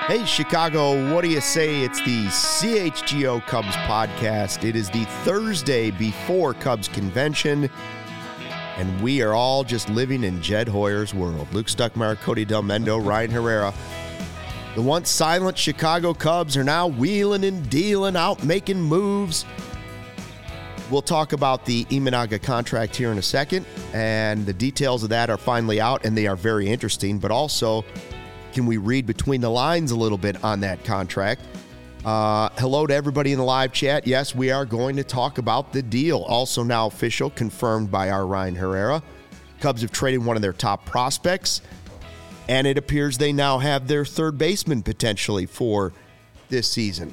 Hey, Chicago, what do you say? It's the CHGO Cubs podcast. It is the Thursday before Cubs convention, and we are all just living in Jed Hoyer's world. Luke Stuckmeyer, Cody Del Mendo, Ryan Herrera. The once silent Chicago Cubs are now wheeling and dealing, out making moves. We'll talk about the Imanaga contract here in a second, and the details of that are finally out, and they are very interesting, but also, can we read between the lines a little bit on that contract? Hello to everybody in the live chat. Yes, we are going to talk about the deal. Also now official, confirmed by our Ryan Herrera. Cubs have traded one of their top prospects, and it appears they now have their third baseman potentially for this season.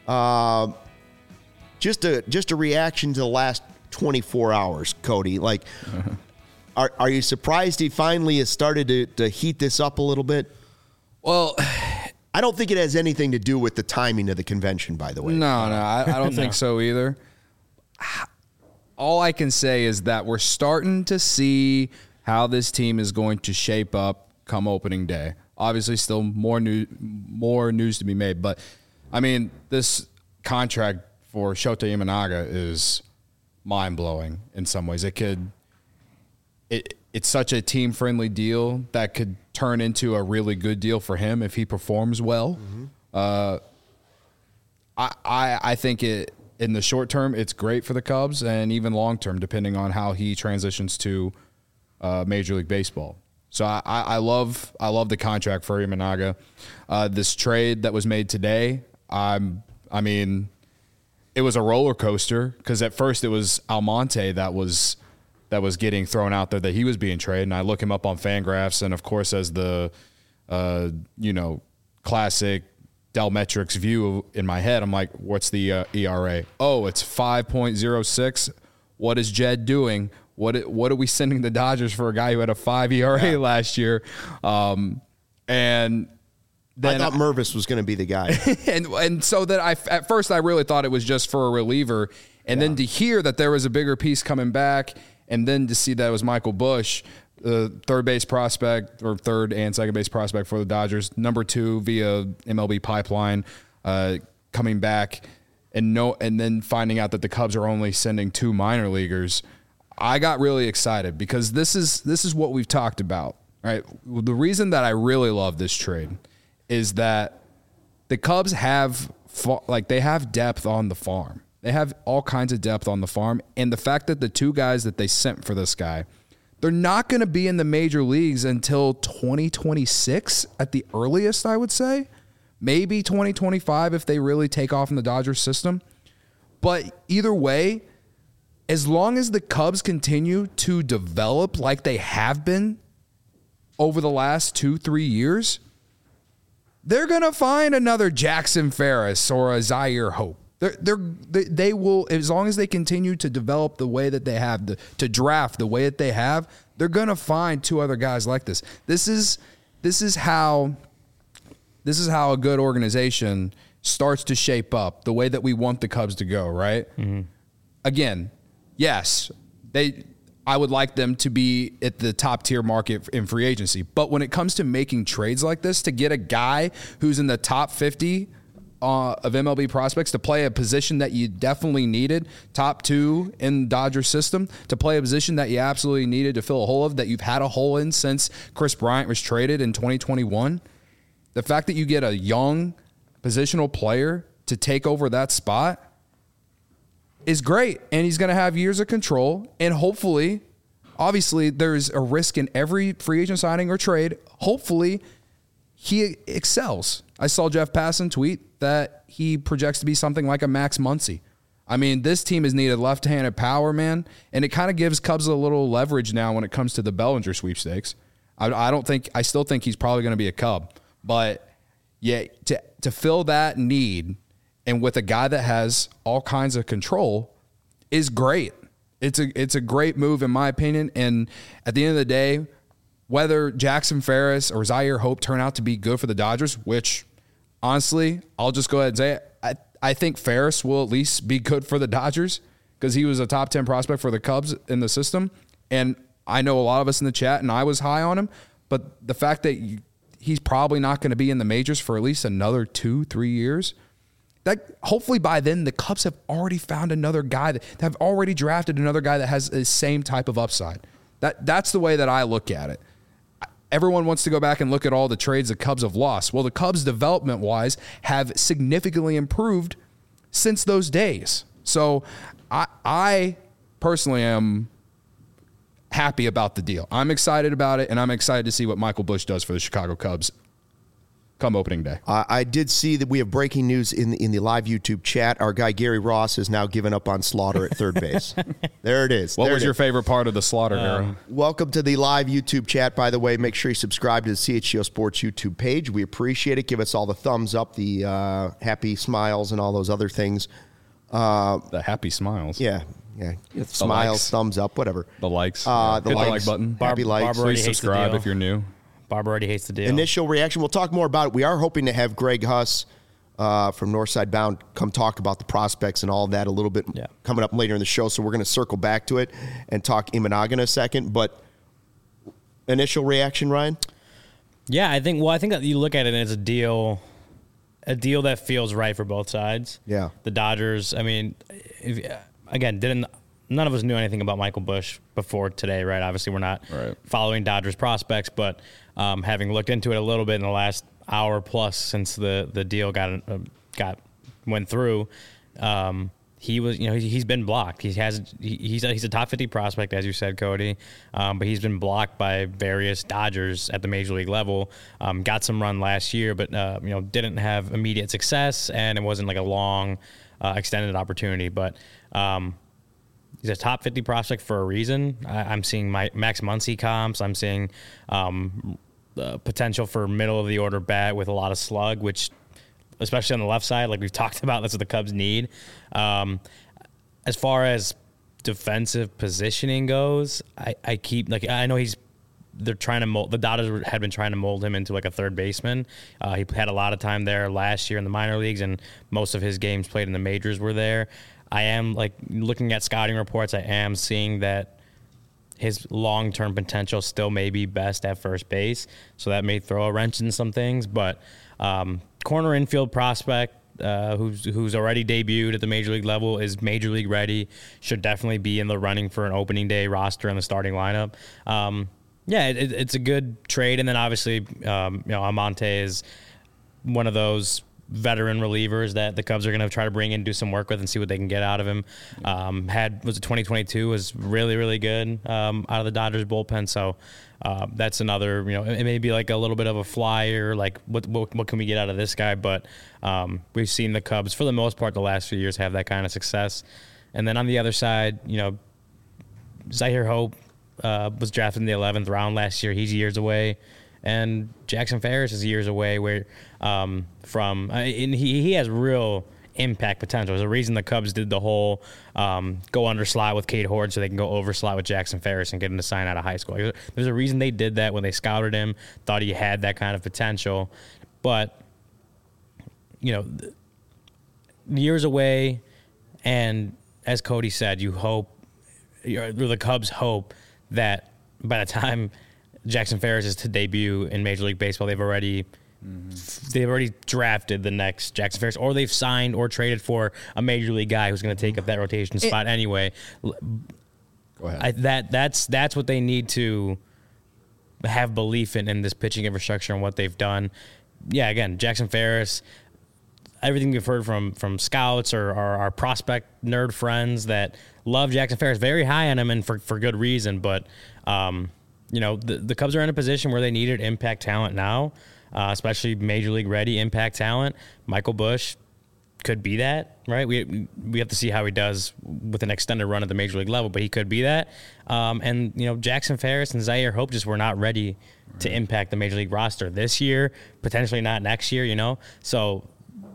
Just a reaction to the last 24 hours, Cody. Like, are you surprised he finally has started to heat this up a little bit? Well, I don't think it has anything to do with the timing of the convention, by the way. No, I don't think so either. All I can say is that we're starting to see how this team is going to shape up come opening day. Obviously, still more news to be made. But, I mean, this contract for Shota Imanaga is mind-blowing in some ways. It's such a team-friendly deal that could turn into a really good deal for him if he performs well. Mm-hmm. I think in the short term, it's great for the Cubs, and even long term, depending on how he transitions to Major League Baseball. So I love the contract for Imanaga. This trade that was made today, I mean, it was a roller coaster because at first it was Almonte that was getting thrown out there that he was being traded. And I look him up on Fangraphs, and of course, as the, classic Delmetrics view in my head, I'm like, what's the ERA? Oh, it's 5.06. What is Jed doing? What are we sending the Dodgers for a guy who had a 5 ERA last year? And then I thought Mervis was going to be the guy. and so that at first I really thought it was just for a reliever. And then to hear that there was a bigger piece coming back, and then to see that it was Michael Busch, the third base prospect, or third and second base prospect for the Dodgers, number 2 via MLB pipeline, coming back, and then finding out that the Cubs are only sending 2 minor leaguers, I got really excited because this is what we've talked about. Right? The reason that I really love this trade is that the Cubs have depth on the farm. They have all kinds of depth on the farm. And the fact that the 2 guys that they sent for this guy, they're not going to be in the major leagues until 2026 at the earliest, I would say. Maybe 2025 if they really take off in the Dodgers system. But either way, as long as the Cubs continue to develop like they have been over the last 2-3 years, they're going to find another Jackson Ferris or a Zaire Hope. They will, as long as they continue to develop the way that they have, to draft the way that they have, they're going to find 2 other guys like this. This is how a good organization starts to shape up the way that we want the Cubs to go, right? Mm-hmm. Again, yes, I would like them to be at the top tier market in free agency. But when it comes to making trades like this, to get a guy who's in the top 50 of MLB prospects to play a position that you definitely needed, top 2 in the Dodger system, to play a position that you absolutely needed to fill a hole of, that you've had a hole in since Chris Bryant was traded in 2021. The fact that you get a young positional player to take over that spot is great. And he's going to have years of control. And hopefully, obviously, there's a risk in every free agent signing or trade. Hopefully, he excels. I saw Jeff Passan tweet that he projects to be something like a Max Muncy. I mean, this team has needed left-handed power, man, and it kind of gives Cubs a little leverage now when it comes to the Bellinger sweepstakes. I still think he's probably going to be a Cub, but yeah, to fill that need and with a guy that has all kinds of control is great. It's a great move in my opinion, and at the end of the day, whether Jackson Ferris or Zaire Hope turn out to be good for the Dodgers, which honestly, I'll just go ahead and say it, I think Ferris will at least be good for the Dodgers because he was a top 10 prospect for the Cubs in the system. And I know a lot of us in the chat, and I was high on him, but the fact that he's probably not going to be in the majors for at least another 2-3 years. That hopefully by then the Cubs have already found another guy that have already drafted another guy that has the same type of upside. That's the way that I look at it. Everyone wants to go back and look at all the trades the Cubs have lost. Well, the Cubs development-wise have significantly improved since those days. So I personally am happy about the deal. I'm excited about it, and I'm excited to see what Michael Busch does for the Chicago Cubs come opening day. I did see that we have breaking news in the live YouTube chat. Our guy Gary Ross has now given up on Slaughter at third base. There it is. What was your favorite part of the Slaughter era? Welcome to the live YouTube chat, by the way. Make sure you subscribe to the CHGO Sports YouTube page. We appreciate it. Give us all the thumbs up, the happy smiles, and all those other things. The happy smiles. Yeah. Smiles, likes. thumbs up, whatever. The likes. The Hit the likes. like button. Happy likes. Please subscribe if you're new. Barb already hates the deal. Initial reaction. We'll talk more about it. We are hoping to have Greg Huss from Northside Bound come talk about the prospects and all of that a little bit coming up later in the show. So we're going to circle back to it and talk Imanaga in a second. But initial reaction, Ryan? Yeah, I think that you look at it as a deal that feels right for both sides. Yeah. The Dodgers, I mean, none of us knew anything about Michael Busch before today, right? Obviously, we're not following Dodgers prospects, but having looked into it a little bit in the last hour plus since the deal went through, he's been blocked. He's a top 50 prospect, as you said, Cody, but he's been blocked by various Dodgers at the major league level. Got some run last year, but didn't have immediate success, and it wasn't like a long, extended opportunity. But he's a top 50 prospect for a reason. I'm seeing Max Muncy comps. I'm seeing potential for middle of the order bat with a lot of slug, which, especially on the left side, like we've talked about, that's what the Cubs need. As far as defensive positioning goes, I know they're trying to mold. The Dodgers had been trying to mold him into like a third baseman. He had a lot of time there last year in the minor leagues, and most of his games played in the majors were there. I am looking at scouting reports. I am seeing that his long-term potential still may be best at first base, so that may throw a wrench in some things. But corner infield prospect who's already debuted at the major league level, is major league ready, should definitely be in the running for an opening day roster in the starting lineup. It's a good trade, and then obviously Almonte is one of those veteran relievers that the Cubs are going to try to bring in, do some work with, and see what they can get out of him. 2022 was really, really good out of the Dodgers bullpen. So that's another, it may be like a little bit of a flyer, like what can we get out of this guy? But we've seen the Cubs, for the most part, the last few years have that kind of success. And then on the other side, Zahir Hope was drafted in the 11th round last year. He's years away. And Jackson Ferris is years away and he has real impact potential. There's a reason the Cubs did the whole go under slot with Cade Horde so they can go over slot with Jackson Ferris and get him to sign out of high school. There's a reason they did that when they scouted him, thought he had that kind of potential. But, years away, and as Cody said, the Cubs hope that by the time Jackson Ferris is to debut in Major League Baseball, they've already drafted the next Jackson Ferris, or they've signed or traded for a major league guy who's going to take up that rotation spot anyway. Go ahead. That's what they need to have belief in this pitching infrastructure and what they've done. Yeah, again, Jackson Ferris, everything we've heard from scouts or our prospect nerd friends that love Jackson Ferris, very high on him, and for good reason. But the Cubs are in a position where they needed impact talent now, especially major league ready impact talent. Michael Busch could be that, right? We have to see how he does with an extended run at the major league level, but he could be that. And Jackson Ferris and Zahir Hope just were not ready to impact the major league roster this year, potentially not next year. So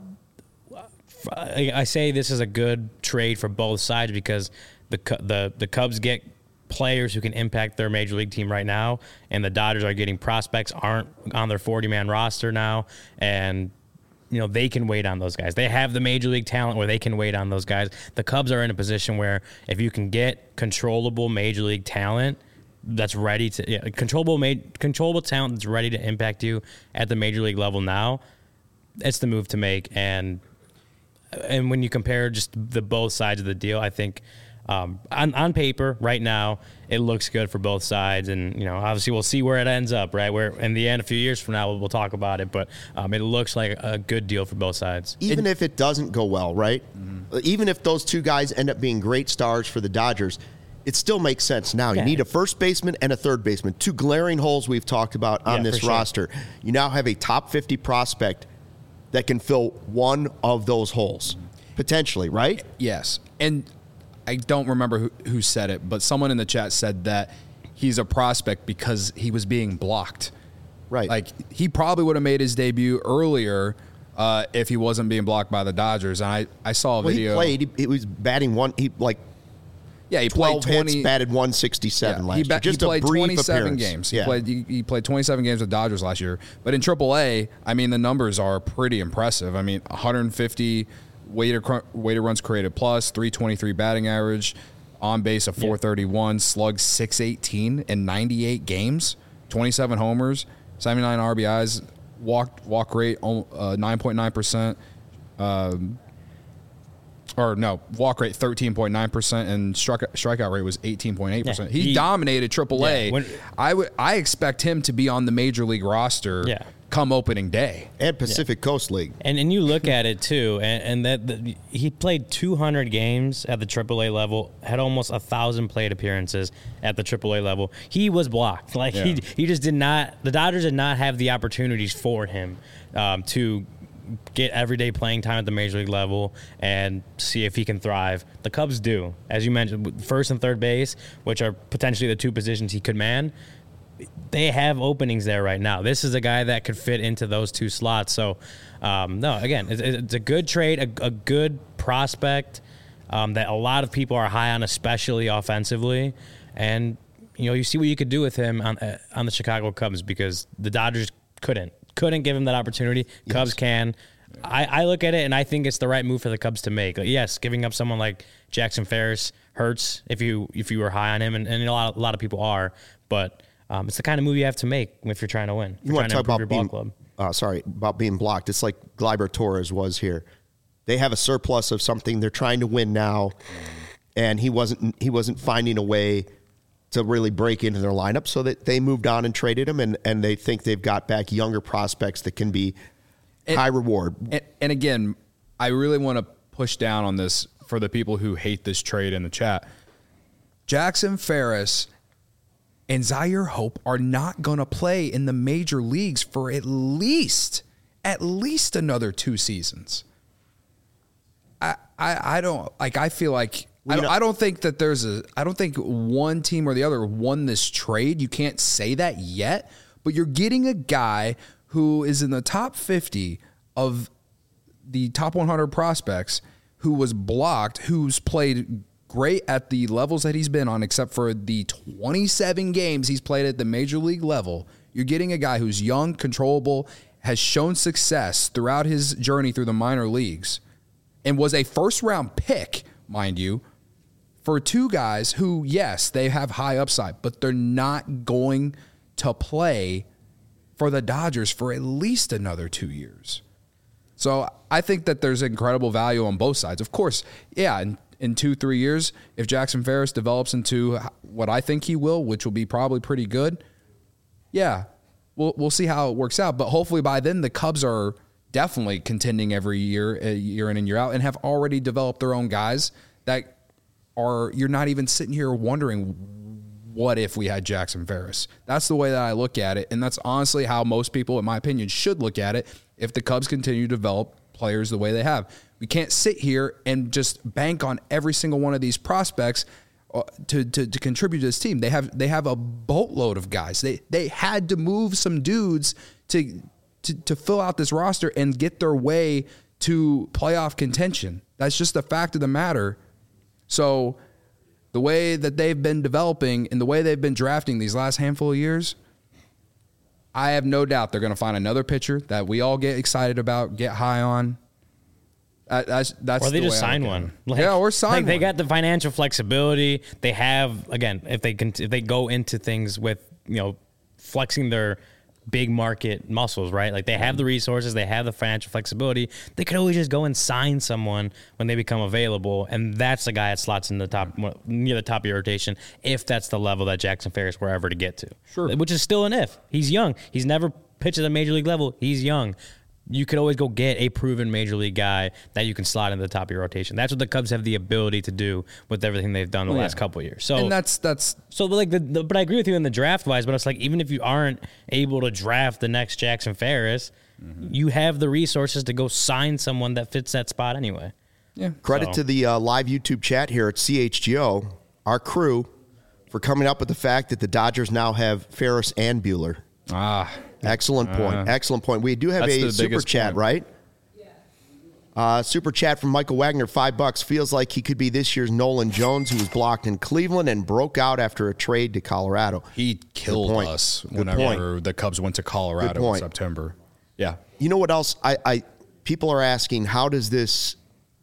I say this is a good trade for both sides because the Cubs get players who can impact their major league team right now, and the Dodgers are getting prospects, aren't on their 40-man roster now, and they can wait on those guys. They have the major league talent where they can wait on those guys. The Cubs are in a position where if you can get controllable major league talent, that's ready to controllable talent that's ready to impact you at the major league level now, it's the move to make. And when you compare just the both sides of the deal, I think on paper right now it looks good for both sides. And obviously we'll see where it ends up, right? Where in the end, a few years from now, we'll talk about it. But it looks like a good deal for both sides. Even if it doesn't go well, right? Mm-hmm. Even if those two guys end up being great stars for the Dodgers, it still makes sense now. You need a first baseman and a third baseman. Two glaring holes we've talked about on this roster. Sure. You now have a top 50 prospect that can fill one of those holes, potentially, right? Yes. And I don't remember who said it, but someone in the chat said that he's a prospect because he was being blocked. Right. Like, he probably would have made his debut earlier if he wasn't being blocked by the Dodgers. And I saw a video. He was batting one. He played 20 hits, batted 167 last year. He played 27 appearance. games. He played 27 games with Dodgers last year. But in AAA, I mean, the numbers are pretty impressive. I mean, 150 weighted runs created plus, 323 batting average, on base of 431, slugged 618 in 98 games, 27 homers, 79 RBIs, walk rate 9.9%. Walk rate 13.9%, and strikeout rate was 18.8%. Yeah, he dominated AAA. Yeah, I expect him to be on the major league roster come opening day. And Pacific Coast League. And you look at it too, and that he played 200 games at the AAA level, had almost 1,000 plate appearances at the AAA level. He was blocked. He just did not. The Dodgers did not have the opportunities for him to get everyday playing time at the major league level and see if he can thrive. The Cubs do, as you mentioned, first and third base, which are potentially the two positions he could man. They have openings there right now. This is a guy that could fit into those two slots. So, it's a good trade, a good prospect that a lot of people are high on, especially offensively. And you see what you could do with him on the Chicago Cubs, because the Dodgers couldn't give him that opportunity. Yes. Cubs can. I look at it and I think it's the right move for the Cubs to make. Yes, giving up someone like Jackson Ferris hurts if you were high on him, and a lot of people are, but it's the kind of move you have to make if you're trying to win. You want to talk about being blocked. It's like Gleyber Torres was here. They have a surplus of something. They're trying to win now, and he wasn't finding a way to really break into their lineup, so that they moved on and traded him, and they think they've got back younger prospects that can be high reward. And again, I really want to push down on this for the people who hate this trade in the chat. Jackson Ferris and Zaire Hope are not going to play in the major leagues for at least another 2 seasons. I don't like. I feel like I don't think that I don't think one team or the other won this trade. You can't say that yet, but you're getting a guy who is in the top 50 of the top 100 prospects, who was blocked, who's played great at the levels that he's been on, except for the 27 games he's played at the major league level. You're getting a guy who's young, controllable, has shown success throughout his journey through the minor leagues, and was a first-round pick, mind you, for 2 guys who, yes, they have high upside, but they're not going to play for the Dodgers for at least another 2 years. So I think that there's incredible value on both sides. Of course, in 2-3 years, if Jackson Ferris develops into what I think he will, which will be probably pretty good, we'll see how it works out. But hopefully by then the Cubs are definitely contending every year in and year out, and have already developed their own guys that you're not even sitting here wondering, what if we had Jackson Ferris? That's the way that I look at it, and that's honestly how most people, in my opinion, should look at it if the Cubs continue to develop players the way they have. We can't sit here and just bank on every single one of these prospects to contribute to this team. They have a boatload of guys. They had to move some dudes to fill out this roster and get their way to playoff contention. That's just the fact of the matter. So the way that they've been developing and the way they've been drafting these last handful of years, I have no doubt they're going to find another pitcher that we all get excited about, get high on. That's or they the just way I sign look at one. it. Or sign like one. They got the financial flexibility. They have, again, if they go into things with, flexing their big market muscles, right? Like they have the resources, they have the financial flexibility. They could always just go and sign someone when they become available, and that's the guy that slots in the top, near the top of your rotation, if that's the level that Jackson Ferris were ever to get to. Sure. Which is still an if. He's young. He's never pitched at a major league level. He's young. You could always go get a proven major league guy that you can slot into the top of your rotation. That's what the Cubs have the ability to do with everything they've done the last couple of years. So, and that's so like but I agree with you in the draft wise. But it's like, even if you aren't able to draft the next Jackson Ferris, you have the resources to go sign someone that fits that spot anyway. yeah. Credit to the live YouTube chat here at CHGO, our crew, for coming up with the fact that the Dodgers now have Ferris and Buehler. Excellent point. Excellent point. We do have a super chat, right? Super chat from Michael Wagner, $5. Feels like he could be this year's Nolan Jones, who was blocked in Cleveland and broke out after a trade to Colorado. He killed us whenever the Cubs went to Colorado in September. Yeah. You know what else? People are asking, how does this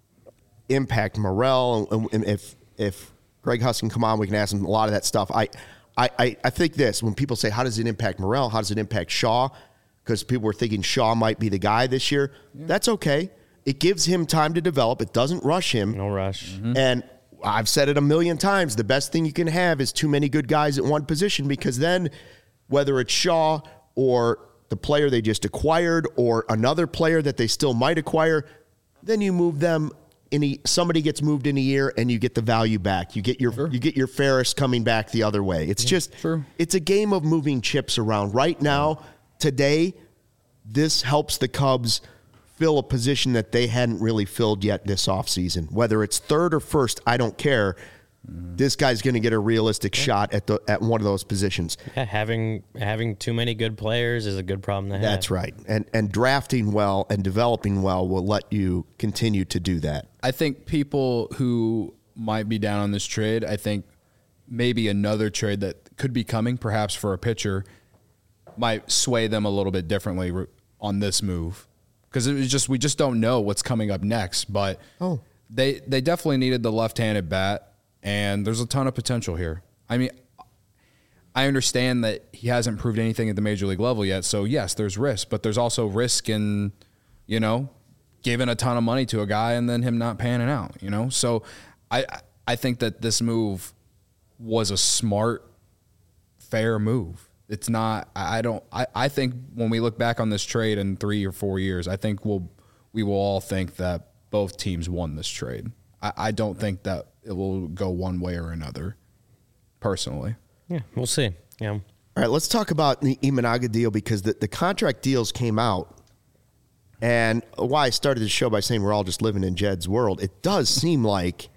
impact Morel? And if Greg Huss can come on, we can ask him a lot of that stuff. I think this, when people say, how does it impact Morel? How does it impact Shaw? Because people were thinking Shaw might be the guy this year. Yeah. That's okay. It gives him time to develop. It doesn't rush him. No rush. Mm-hmm. And I've said it a million times. The best thing you can have is too many good guys at one position, because then whether it's Shaw or the player they just acquired or another player that they still might acquire, then you move them. Somebody gets moved in a year and you get the value back. You get your Ferris coming back the other way. It's it's a game of moving chips around. Right now, today, this helps the Cubs fill a position that they hadn't really filled yet this offseason. Whether it's third or first, I don't care. This guy's going to get a realistic shot at one of those positions. Yeah, having too many good players is a good problem to have. That's right. And drafting well and developing well will let you continue to do that. I think people who might be down on this trade, I think maybe another trade that could be coming, perhaps for a pitcher, might sway them a little bit differently on this move. Because we just don't know what's coming up next. But they definitely needed the left-handed bat. And there's a ton of potential here. I mean, I understand that he hasn't proved anything at the major league level yet. So, yes, there's risk. But there's also risk in, giving a ton of money to a guy and then him not panning out, So, I think that this move was a smart, fair move. It's not – I think when we look back on this trade in 3 or 4 years, I think we will all think that both teams won this trade. I don't think that it will go one way or another, personally. Yeah, we'll see. Yeah. All right, let's talk about the Imanaga deal, because the contract deals came out. And why I started the show by saying we're all just living in Jed's world, it does seem like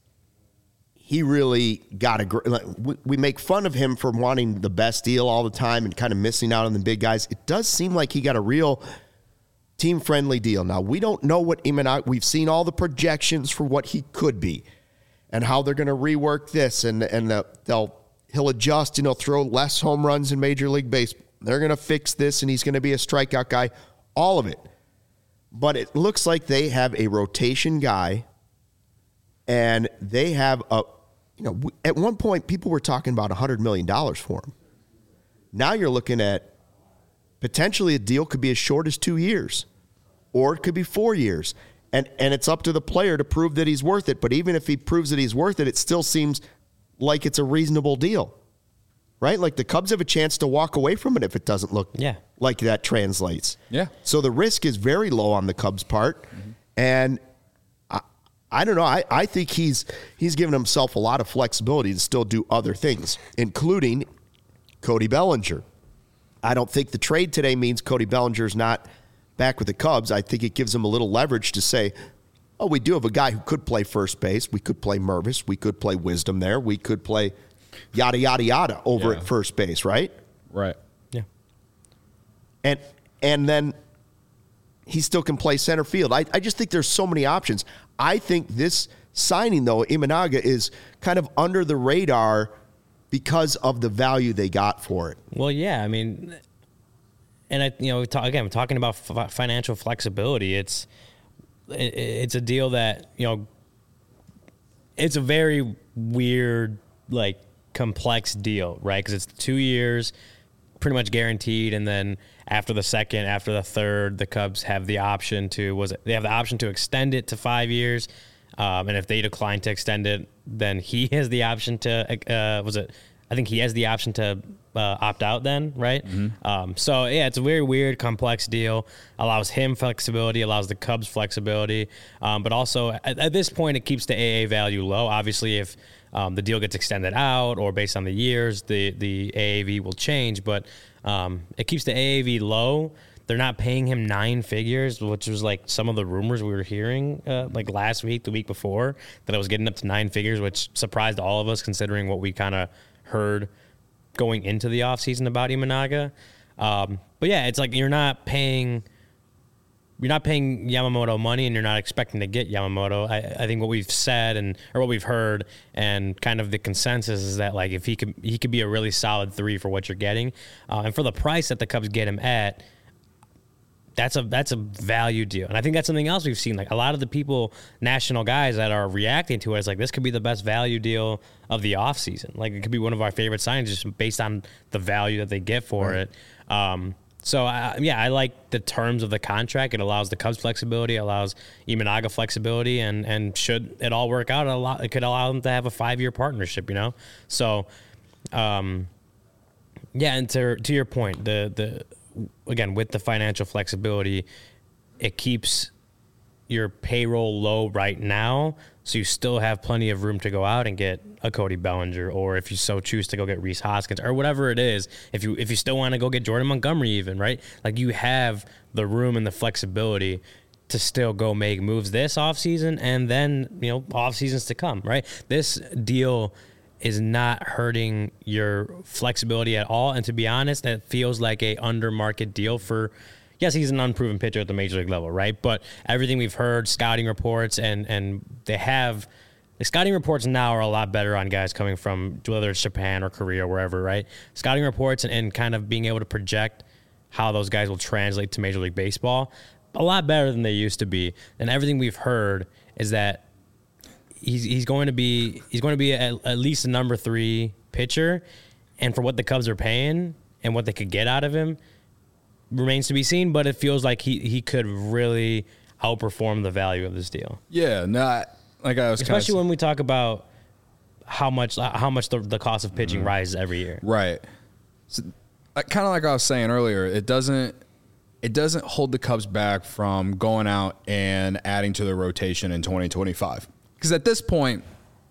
he really got we make fun of him for wanting the best deal all the time and kind of missing out on the big guys. It does seem like he got a real team-friendly deal. Now, we don't know what Imanaga – we've seen all the projections for what he could be and how they're going to rework this, and he'll adjust, throw less home runs in Major League Baseball. They're going to fix this, and he's going to be a strikeout guy, all of it. But it looks like they have a rotation guy, and they have at one point, people were talking about $100 million for him. Now you're looking at potentially a deal could be as short as 2 years, or it could be 4 years. And it's up to the player to prove that he's worth it. But even if he proves that he's worth it, it still seems like it's a reasonable deal, right? Like the Cubs have a chance to walk away from it if it doesn't look like that translates. Yeah. So the risk is very low on the Cubs' part. Mm-hmm. And I don't know. I think he's given himself a lot of flexibility to still do other things, including Cody Bellinger. I don't think the trade today means Cody Bellinger's not back with the Cubs. I think it gives him a little leverage to say, we do have a guy who could play first base. We could play Mervis. We could play Wisdom there. We could play yada, yada, yada over at first base, right? Right. Yeah. And then he still can play center field. I just think there's so many options. I think this signing, though, Imanaga, is kind of under the radar because of the value they got for it. Well, yeah, I mean, and we're talking about financial flexibility. it's a deal that, it's a very weird, like, complex deal, right? Because it's 2 years, pretty much guaranteed, and then after the second, after the third, the Cubs have the option to extend it to 5 years, and if they decline to extend it, then he has the option to I think he has the option to opt out then, right? Mm-hmm. So, yeah, it's a very weird, complex deal. Allows him flexibility, allows the Cubs flexibility. But also, at this point, it keeps the AA value low. Obviously, if the deal gets extended out or based on the years, the AAV will change. But it keeps the AAV low. They're not paying him 9 figures, which was like some of the rumors we were hearing like last week, the week before, that it was getting up to 9 figures, which surprised all of us considering what we kind of heard going into the offseason about Imanaga. But yeah, it's like you're not paying Yamamoto money and you're not expecting to get Yamamoto. I think what we've said or what we've heard and kind of the consensus is that, like, if he could be a really solid 3 for what you're getting. And for the price that the Cubs get him at, that's a value deal. And I think that's something else we've seen. Like, a lot of the people, national guys that are reacting to it, is like, this could be the best value deal of the offseason. Like, it could be one of our favorite signings just based on the value that they get for it. So, I like the terms of the contract. It allows the Cubs flexibility, allows Imanaga flexibility, and should it all work out, it could allow them to have a 5-year partnership, So, and to your point, again, with the financial flexibility, it keeps your payroll low right now, so you still have plenty of room to go out and get a Cody Bellinger, or if you so choose to go get Rhys Hoskins, or whatever it is. If you still want to go get Jordan Montgomery even, right? Like, you have the room and the flexibility to still go make moves this offseason and then, off seasons to come, right? This deal is not hurting your flexibility at all. And to be honest, it feels like a under market deal for, yes, he's an unproven pitcher at the major league level, right? But everything we've heard, scouting reports, and the scouting reports now are a lot better on guys coming from, whether it's Japan or Korea or wherever, right? Scouting reports and kind of being able to project how those guys will translate to Major League Baseball, a lot better than they used to be. And everything we've heard is that he's going to be at least a number 3 pitcher, and for what the Cubs are paying and what they could get out of him remains to be seen. But it feels like he could really outperform the value of this deal. Yeah, especially when we talk about how much the cost of pitching rises every year. Right. So, kind of like I was saying earlier, it doesn't hold the Cubs back from going out and adding to the rotation in 2025. Because at this point,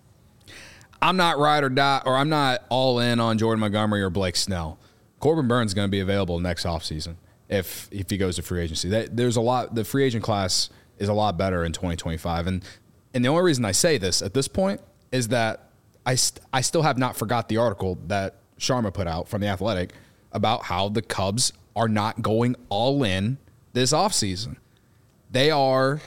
I'm not ride or die, or I'm not all in on Jordan Montgomery or Blake Snell. Corbin Burns is going to be available next offseason if he goes to free agency. The free agent class is a lot better in 2025. And the only reason I say this at this point is that I still have not forgot the article that Sharma put out from The Athletic about how the Cubs are not going all in this offseason. They are,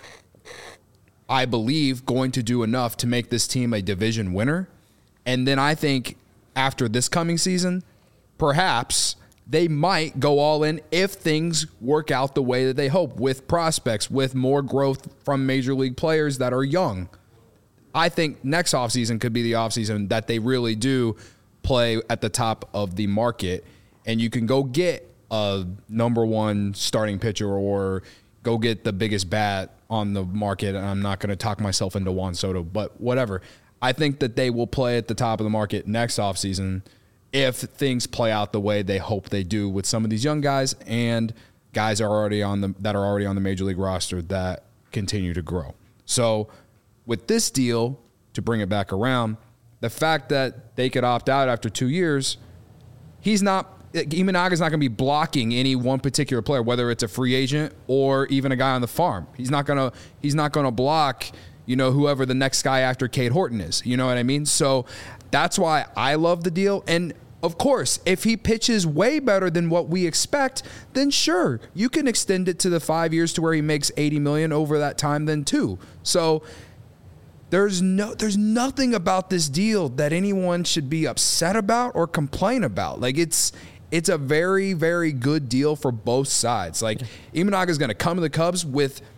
I believe, going to do enough to make this team a division winner. And then I think after this coming season, perhaps they might go all in if things work out the way that they hope, with prospects, with more growth from major league players that are young. I think next offseason could be the offseason that they really do play at the top of the market, and you can go get a number 1 starting pitcher or go get the biggest bat on the market. And I'm not going to talk myself into Juan Soto, but whatever. I think that they will play at the top of the market next offseason if things play out the way they hope they do with some of these young guys and guys that are already on the major league roster that continue to grow. So with this deal, to bring it back around, the fact that they could opt out after 2 years, Imanaga's not going to be blocking any one particular player, whether it's a free agent or even a guy on the farm. He's not going to block, whoever the next guy after Cade Horton is. You know what I mean? So that's why I love the deal. And of course, if he pitches way better than what we expect, then sure, you can extend it to the 5 years to where he makes $80 million over that time then too. So there's nothing about this deal that anyone should be upset about or complain about. Like, it's a very, very good deal for both sides. Like, Imanaga's going to come to the Cubs with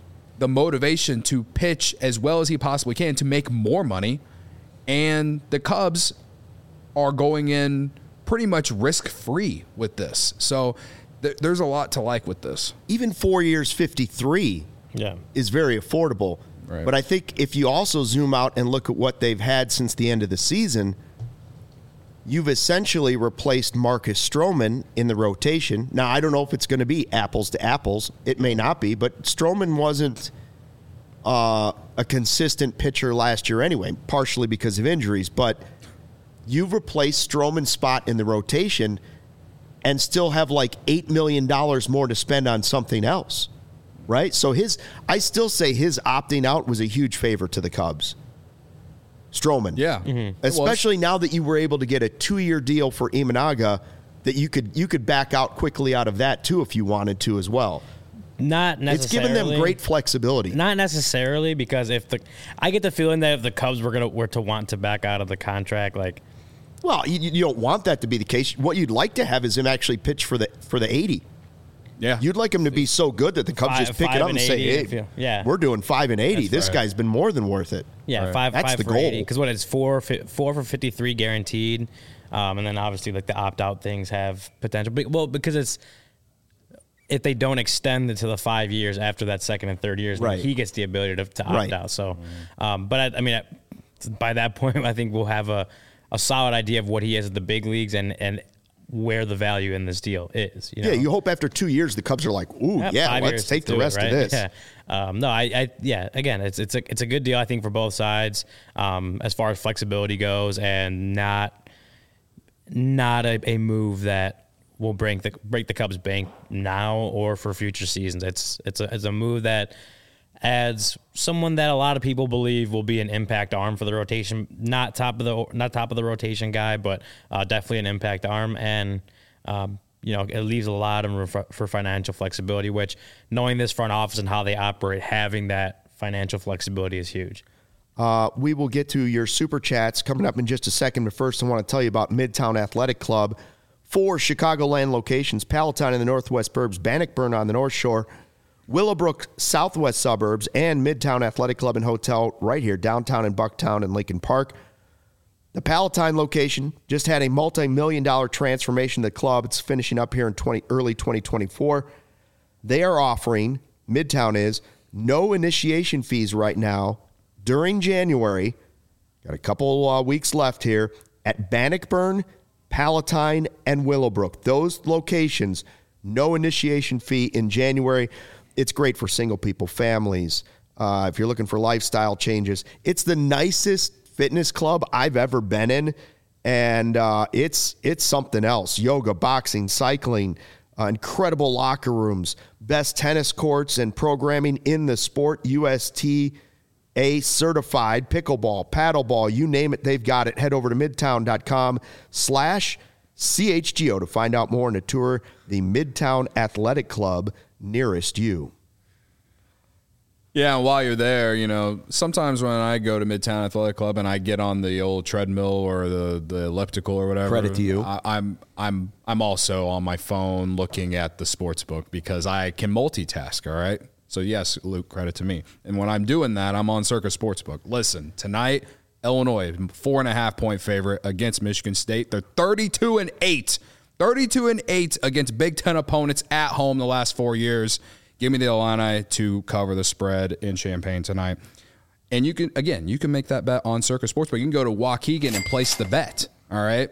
the motivation to pitch as well as he possibly can to make more money. And the Cubs are going in pretty much risk-free with this. So there's a lot to like with this. Even 4 years, 53 is very affordable. Right. But I think if you also zoom out and look at what they've had since the end of the season, you've essentially replaced Marcus Stroman in the rotation. Now, I don't know if it's going to be apples to apples. It may not be, but Stroman wasn't a consistent pitcher last year anyway, partially because of injuries. But you've replaced Stroman's spot in the rotation and still have like $8 million more to spend on something else, right? So I still say his opting out was a huge favor to the Cubs. Stroman. Yeah. Mm-hmm. Especially now that you were able to get a 2-year deal for Imanaga, that you could back out quickly out of that too if you wanted to as well. Not necessarily. It's given them great flexibility. Not necessarily, because I get the feeling that if the Cubs were to want to back out of the contract, like, well, you don't want that to be the case. What you'd like to have is him actually pitch for the 80. Yeah. You'd like him to be so good that the Cubs just pick it up and say, hey, we're doing 5 and 80. This guy's been more than worth it. Yeah, right. That's the for goal. Because what it's 4 for 53 guaranteed, and then obviously like the opt out things have potential. Well, because it's if they don't extend it to the 5 years after that second and third years, right, he gets the ability to opt out. So, but I mean, by that point, I think we'll have a solid idea of what he is at the big leagues and where the value in this deal is. You know? Yeah, you hope after 2 years the Cubs are like, ooh, let's take the rest of this. Yeah. Again, it's a good deal, I think, for both sides as far as flexibility goes, and not a move that will break the Cubs' bank now or for future seasons. It's a move that adds someone that a lot of people believe will be an impact arm for the rotation. Not top of the rotation guy, but definitely an impact arm. And it leaves a lot of room for financial flexibility, which, knowing this front office and how they operate, having that financial flexibility is huge. We will get to your super chats coming up in just a second, but first I want to tell you about Midtown Athletic Club. 4 Chicagoland locations: Palatine in the northwest burbs, Bannockburn on the north shore, Willowbrook southwest suburbs, and Midtown Athletic Club and Hotel right here downtown in Bucktown and Lincoln Park. The Palatine location just had a multi-million-dollar transformation of the club. It's finishing up here in early 2024. They are offering, Midtown is, no initiation fees right now during January. Got a couple weeks left here at Bannockburn, Palatine, and Willowbrook. Those locations, no initiation fee in January. It's great for single people, families. If you're looking for lifestyle changes, it's the nicest fitness club I've ever been in, and it's something else. Yoga, boxing, cycling, incredible locker rooms, best tennis courts and programming in the sport. USTA certified, pickleball, paddleball, you name it, they've got it. Head over to midtown.com/CHGO to find out more and to tour the Midtown Athletic Club nearest you. Yeah, and while you're there, sometimes when I go to Midtown Athletic Club and I get on the old treadmill or the elliptical or whatever, credit to you. I'm also on my phone looking at the sports book because I can multitask. All right, so yes, Luke, credit to me. And when I'm doing that, I'm on Circa Sportsbook. Listen, tonight, Illinois 4.5-point favorite against Michigan State. They're 32-8. 32-8 against Big Ten opponents at home the last 4 years. Give me the Illini to cover the spread in Champaign tonight. And you can make that bet on Circa Sportsbook. You can go to Waukegan and place the bet. All right.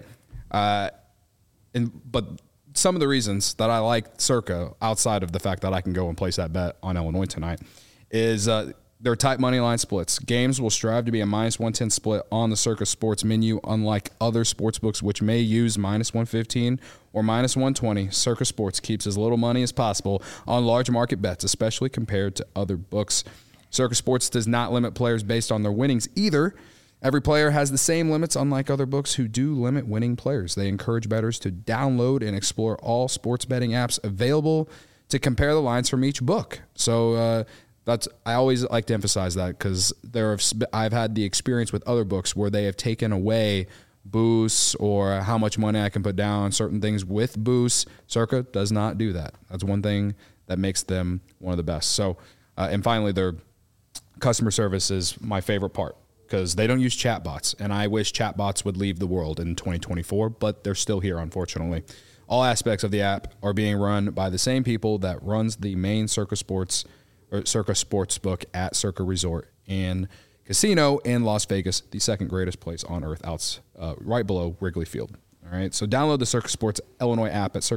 But some of the reasons that I like Circa, outside of the fact that I can go and place that bet on Illinois tonight, is their tight money line splits. Games will strive to be a -110 split on the Circa Sports menu, unlike other sports books which may use -115 or -120. Circa Sports keeps as little money as possible on large market bets, especially compared to other books. Circa Sports does not limit players based on their winnings either. Every player has the same limits, unlike other books who do limit winning players. They encourage bettors to download and explore all sports betting apps available to compare the lines from each book. So I always like to emphasize that because I've had the experience with other books where they have taken away boosts or how much money I can put down on certain things with boosts. Circa does not do that. That's one thing that makes them one of the best. So And finally, their customer service is my favorite part because they don't use chatbots, and I wish chatbots would leave the world in 2024, but they're still here, unfortunately. All aspects of the app are being run by the same people that runs the main Circa Sportsbook at Circa Resort and Casino in Las Vegas, the second greatest place on earth, right below Wrigley Field. All right, so download the Circa Sports Illinois app at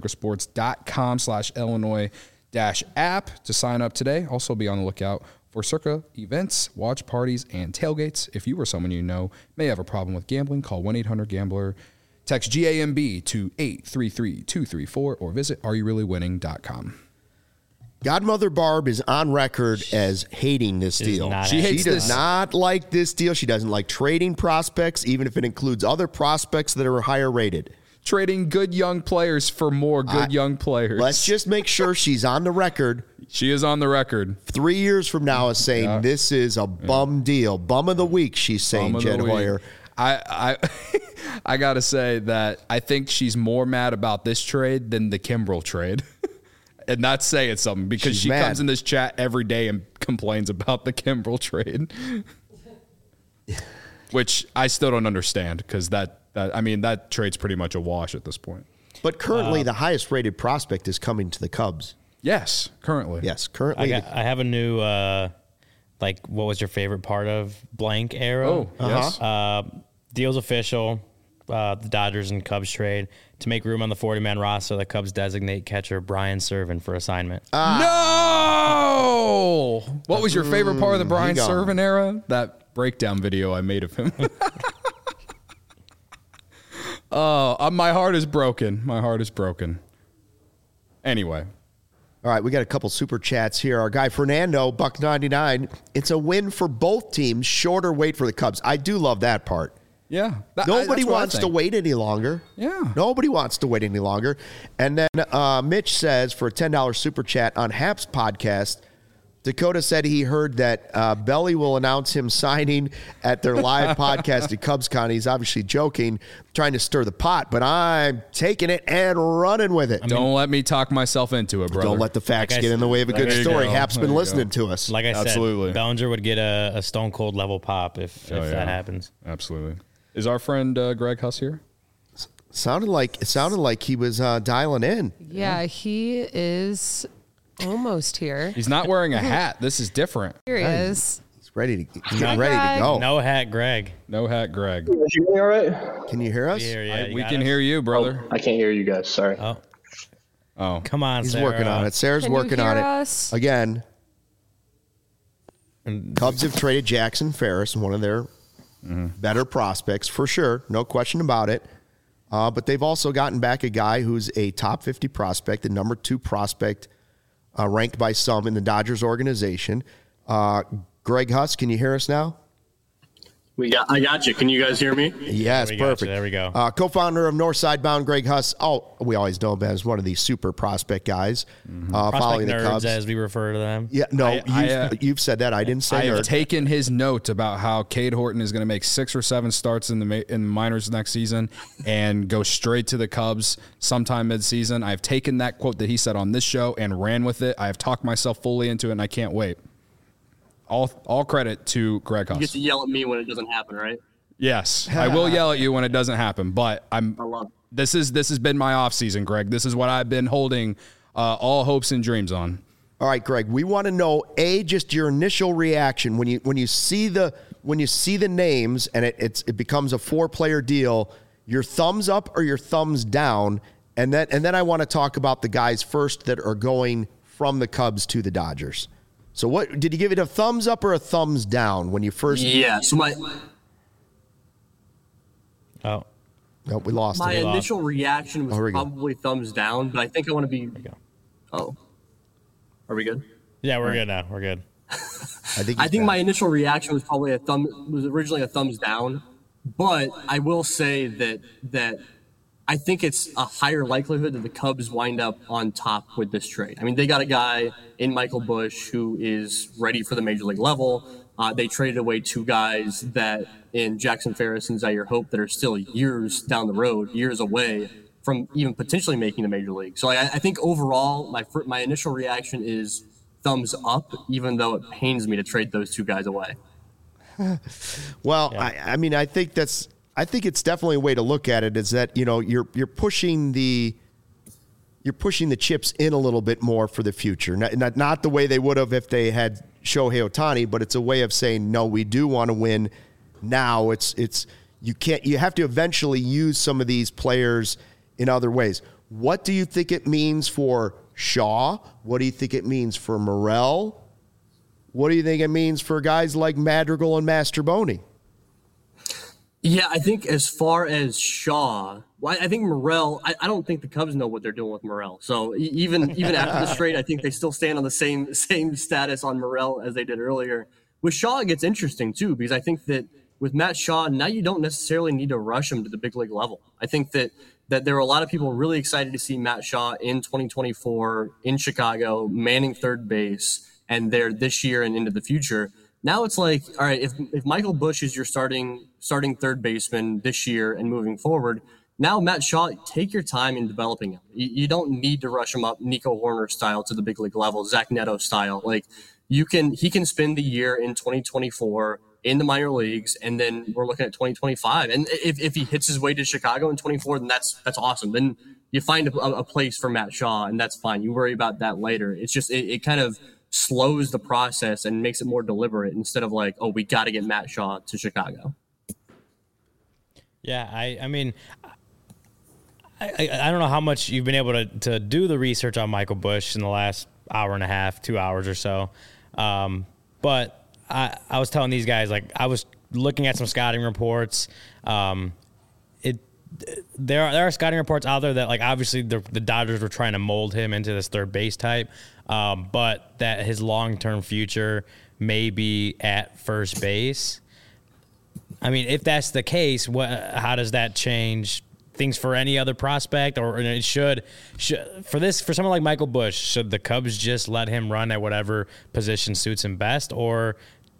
circasports.com/Illinois-app to sign up today. Also be on the lookout for Circa events, watch parties, and tailgates. If you or someone you know may have a problem with gambling, call 1-800-GAMBLER. Text GAMB to 833-234 or visit areyoureallywinning.com. Godmother Barb is on record as hating this deal. She does not like this deal. She doesn't like trading prospects, even if it includes other prospects that are higher rated. Trading good young players for more good young players. Let's just make sure she's on the record. She is on the record. 3 years from now is saying this is a bum deal. Bum of the week, she's saying, Jed Hoyer. I got to say that I think she's more mad about this trade than the Kimbrel trade. And that's saying something because she comes in this chat every day and complains about the Kimbrel trade. Which I still don't understand because that trade's pretty much a wash at this point. But currently the highest rated prospect is coming to the Cubs. Yes, currently. Yes, currently. I have a new what was your favorite part of blank arrow? Oh, yes. Deal's official. The Dodgers and Cubs trade to make room on the 40-man roster. The Cubs designate catcher Brian Serven for assignment. No! What was your favorite part of the Brian Serven era? That breakdown video I made of him. My heart is broken. My heart is broken. Anyway. All right, we got a couple super chats here. Our guy Fernando, $1.99. It's a win for both teams. Shorter wait for the Cubs. I do love that part. Yeah. Nobody wants to wait any longer. Yeah. Nobody wants to wait any longer. And then Mitch says for a $10 super chat on Hap's podcast, Dakota said he heard that Belly will announce him signing at their live podcast at CubsCon. He's obviously joking, trying to stir the pot, but I'm taking it and running with it. Don't let me talk myself into it, brother. Don't let the facts get in the way of a good story. Hap's been listening to us. Like I Absolutely. said, Bellinger would get a stone cold level pop if that happens. Absolutely. Is our friend Greg Huss here? It sounded like he was dialing in. Yeah, he is almost here. He's not wearing a hat. This is different. Here he is. He's ready to go. No hat, Greg. No hat, Greg. Can you hear me all right? Can you hear us? We can hear you, brother. I can't hear you guys. Sorry. Oh. Come on, He's Sarah. working on it. Sarah's working on it. Again, Cubs have traded Jackson Ferris, one of their better prospects for sure. No question about it. But they've also gotten back a guy who's a top 50 prospect, the number 2 prospect ranked by some in the Dodgers organization. Greg Huss, can you hear us now? I got you. Can you guys hear me? Yes, perfect. There we go. Co-founder of Northside Bound, Greg Huss. Oh, we always know him as one of these super prospect guys. Following nerds, the Cubs, as we refer to them. Yeah, no, you've said that. I didn't say I nerd. have taken his note about how Cade Horton is going to make 6 or 7 starts in the minors next season and go straight to the Cubs sometime mid-season. I've taken that quote that he said on this show and ran with it. I have talked myself fully into it, and I can't wait. All credit to Greg Huss. You get to yell at me when it doesn't happen, right? Yes, I will yell at you when it doesn't happen, but I love it. This has been my off season, Greg. This is what I've been holding all hopes and dreams on. All right, Greg. We want to know just your initial reaction when you see the names and it becomes a 4-player deal. Your thumbs up or your thumbs down, and then I want to talk about the guys first that are going from the Cubs to the Dodgers. So what did you give it, a thumbs up or a thumbs down when you first? Yeah. So No, we lost my it. initial reaction was probably thumbs down, but I think I want to be. Oh, are we good? Yeah, we're good now. We're good. I think my initial reaction was probably originally a thumbs down, but I will say that I think it's a higher likelihood that the Cubs wind up on top with this trade. I mean, they got a guy in Michael Busch who is ready for the major league level. They traded away 2 guys that in Jackson Ferris and Zaire Hope that are still years down the road, years away from even potentially making the major league. So I think overall, my initial reaction is thumbs up, even though it pains me to trade those two guys away. Well, yeah. I mean, I think it's definitely a way to look at it, is that, you know, you're pushing the chips in a little bit more for the future. Not the way they would have if they had Shohei Ohtani, but it's a way of saying, no, we do want to win now. You have to eventually use some of these players in other ways. What do you think it means for Shaw? What do you think it means for Morel? What do you think it means for guys like Madrigal and Masterboni? Yeah, I think as far as Shaw, I think Morel, I don't think the Cubs know what they're doing with Morel. So even after this trade, I think they still stand on the same status on Morel as they did earlier. With Shaw, it gets interesting too, because I think that with Matt Shaw, now you don't necessarily need to rush him to the big league level. I think that there were a lot of people really excited to see Matt Shaw in 2024 in Chicago, manning third base, and there this year and into the future. Now it's like, all right, if Michael Busch is your starting third baseman this year and moving forward, now Matt Shaw, take your time in developing him. You don't need to rush him up Nico Horner style to the big league level, Zach Neto style. Like he can spend the year in 2024 in the minor leagues, and then we're looking at 2025. And if he hits his way to Chicago in 24, then that's awesome. Then you find a place for Matt Shaw, and that's fine. You worry about that later. It's just it kind of slows the process and makes it more deliberate instead of like, oh, we got to get Matt Shaw to Chicago. Yeah, I mean, I don't know how much you've been able to do the research on Michael Busch in the last hour and a half, 2 hours or so. But I was telling these guys, like, I was looking at some scouting reports. There are scouting reports out there that, like, obviously the Dodgers were trying to mold him into this third base type, but that his long-term future may be at first base. I mean, if that's the case, how does that change things for any other prospect? Or it should for someone like Michael Busch, should the Cubs just let him run at whatever position suits him best, or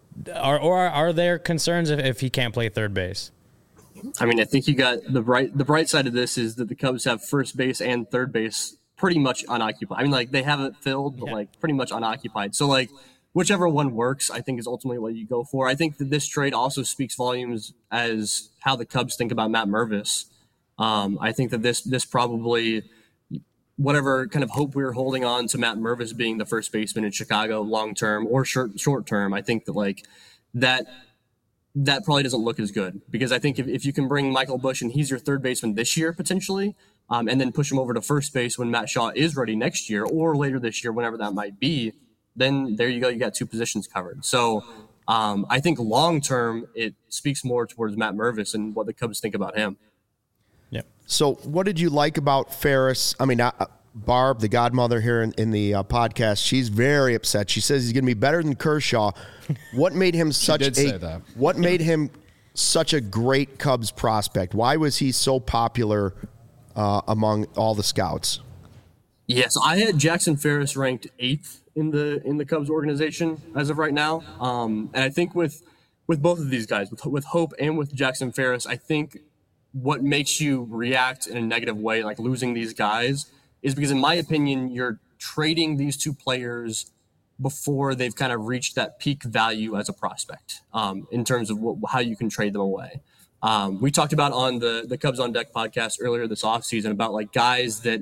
are there concerns if he can't play third base? I mean, I think you got the bright side of this is that the Cubs have first base and third base pretty much unoccupied. I mean, like, they have it filled, but like pretty much unoccupied. So like whichever one works, I think, is ultimately what you go for. I think that this trade also speaks volumes as how the Cubs think about Matt Mervis. I think that this probably, whatever kind of hope we were holding on to Matt Mervis being the first baseman in Chicago long term or short term, I think that like that probably doesn't look as good, because I think if you can bring Michael Busch and he's your third baseman this year potentially, and then push him over to first base when Matt Shaw is ready next year or later this year, whenever that might be, then there you go. You got two positions covered. So I think long term it speaks more towards Matt Mervis and what the Cubs think about him. Yeah. So what did you like about Ferris? I mean, Barb, the godmother here in the podcast, she's very upset. She says he's going to be better than Kershaw. What made him What made him such a great Cubs prospect? Why was he so popular among all the scouts? Yeah, so I had Jackson Ferris ranked 8th in the Cubs organization as of right now. And I think with both of these guys, with Hope and with Jackson Ferris, I think what makes you react in a negative way, like losing these guys, is because, in my opinion, you're trading these two players before they've kind of reached that peak value as a prospect, in terms of how you can trade them away. We talked about on the Cubs on Deck podcast earlier this offseason about like guys that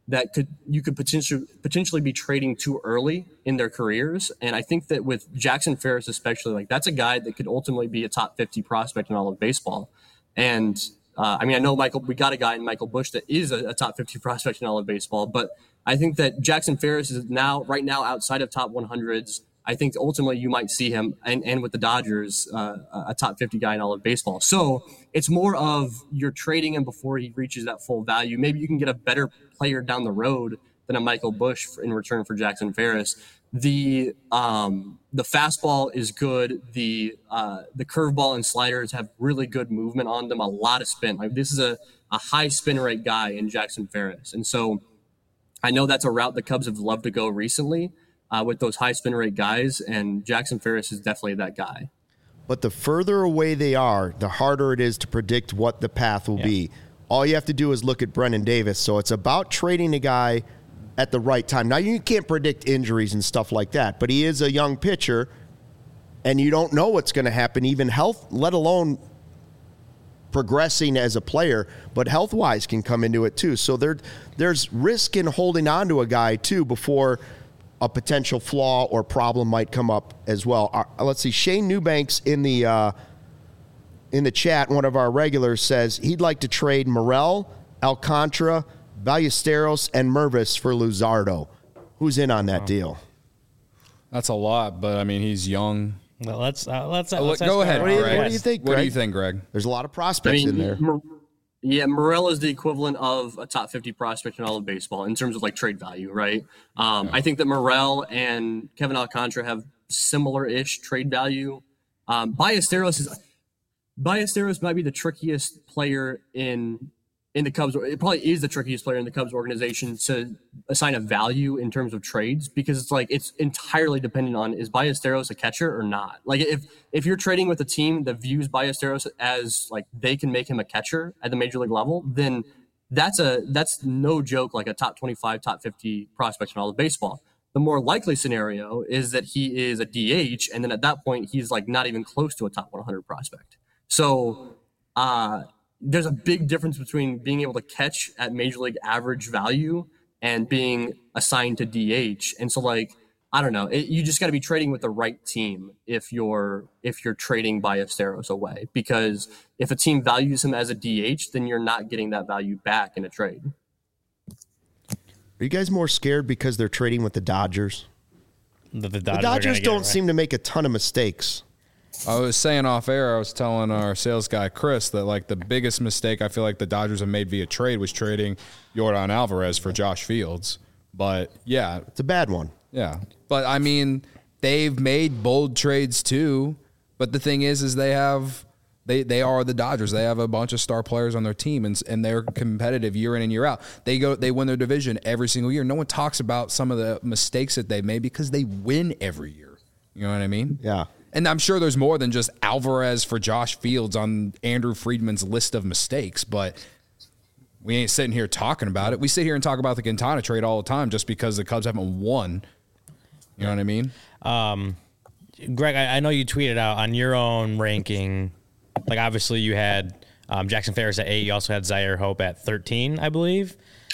you could potentially be trading too early in their careers. And I think that with Jackson Ferris especially, like, that's a guy that could ultimately be a top 50 prospect in all of baseball. And I mean, I know we got a guy in Michael Busch that is a top 50 prospect in all of baseball, but I think that Jackson Ferris is right now outside of top 100s. I think ultimately you might see him, and with the Dodgers, a top 50 guy in all of baseball. So it's more of you're trading him before he reaches that full value. Maybe you can get a better player down the road than a Michael Busch in return for Jackson Ferris. The fastball is good. The curveball and sliders have really good movement on them, a lot of spin. Like, this is a high spin rate guy in Jackson Ferris. And so I know that's a route the Cubs have loved to go recently, with those high spin rate guys, and Jackson Ferris is definitely that guy. But the further away they are, the harder it is to predict what the path will be. All you have to do is look at Brennan Davis. So it's about trading a guy at the right time. Now, you can't predict injuries and stuff like that, but he is a young pitcher, and you don't know what's going to happen, even health, let alone progressing as a player, but health-wise can come into it too. So there's risk in holding on to a guy too before a potential flaw or problem might come up as well. Let's see, Shane Newbanks in the chat, one of our regulars, says he'd like to trade Morel, Alcantara, Ballesteros, and Mervis for Luzardo. Who's in on that deal? That's a lot, but I mean, he's young. Well, let's go ask ahead, Greg. Greg. What do you think, What Greg? do you think, Greg? There's a lot of prospects in there. Morel is the equivalent of a top 50 prospect in all of baseball in terms of like trade value, right? I think that Morel and Kevin Alcantara have similar-ish trade value. Ballesteros might be the trickiest player in the Cubs. It probably is the trickiest player in the Cubs organization to assign a value in terms of trades, because it's entirely dependent on, is Ballesteros a catcher or not? Like if you're trading with a team that views Ballesteros as like they can make him a catcher at the major league level, then that's no joke, like a top 25, top 50 prospect in all of baseball. The more likely scenario is that he is a DH, and then at that point he's like not even close to a top 100 prospect. So there's a big difference between being able to catch at major league average value and being assigned to DH. And so, like, I don't know, you just got to be trading with the right team if you're trading Ballesteros away, because if a team values him as a DH, then you're not getting that value back in a trade. Are you guys more scared because they're trading with the Dodgers? The Dodgers don't seem to make a ton of mistakes. I was saying off air, I was telling our sales guy, Chris, that like the biggest mistake I feel like the Dodgers have made via trade was trading Yordan Alvarez for Josh Fields. But yeah. It's a bad one. Yeah. But I mean, they've made bold trades too. But the thing is they are the Dodgers. They have a bunch of star players on their team, and they're competitive year in and year out. They win their division every single year. No one talks about some of the mistakes that they made because they win every year. You know what I mean? Yeah. And I'm sure there's more than just Alvarez for Josh Fields on Andrew Friedman's list of mistakes, but we ain't sitting here talking about it. We sit here and talk about the Quintana trade all the time just because the Cubs haven't won. You know what I mean? Greg, I know you tweeted out on your own ranking, like obviously you had Jackson Ferris at 8. You also had Zaire Hope at 13, I believe.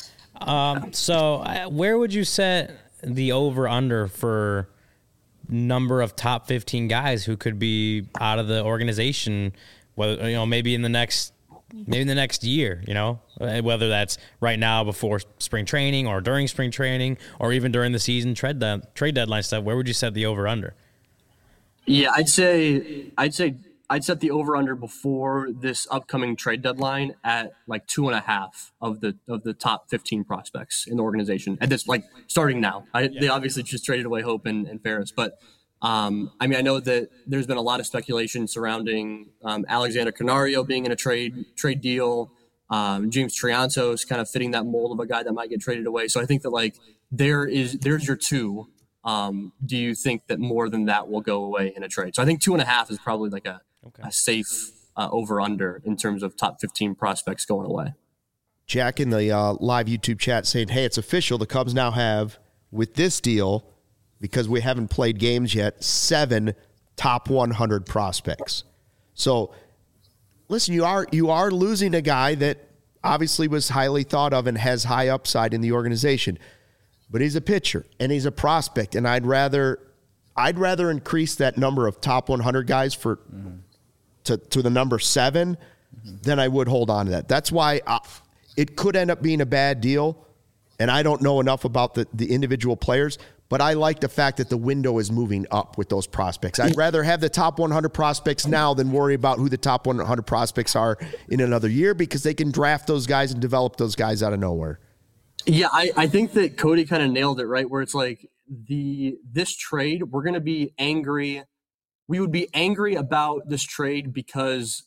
So where would you set the over-under for number of top 15 guys who could be out of the organization, whether, you know, maybe in the next year, you know, whether that's right now before spring training or during spring training or even during the season trade deadline stuff? Where would you set the over under? Yeah, I'd set the over under before this upcoming trade deadline at like 2.5 of the top 15 prospects in the organization at this, like, starting now. They obviously just traded away Hope and Ferris, but I mean, I know that there's been a lot of speculation surrounding Alexander Canario being in a trade deal. James Triantos kind of fitting that mold of a guy that might get traded away. So I think that, like, there's your two. Do you think that more than that will go away in a trade? So I think 2.5 is probably like a safe over-under in terms of top 15 prospects going away. Jack in the live YouTube chat saying, hey, it's official. The Cubs now have, with this deal, because we haven't played games yet, 7 top 100 prospects. So, listen, you are losing a guy that obviously was highly thought of and has high upside in the organization. But he's a pitcher and he's a prospect, and I'd rather increase that number of top 100 guys to the number 7 than I would hold on to that. That's why it could end up being a bad deal, and I don't know enough about the individual players, but I like the fact that the window is moving up with those prospects. I'd rather have the top 100 prospects now than worry about who the top 100 prospects are in another year, because they can draft those guys and develop those guys out of nowhere. Yeah, I think that Cody kind of nailed it, right? Where it's like this trade, we're going to be angry. We would be angry about this trade because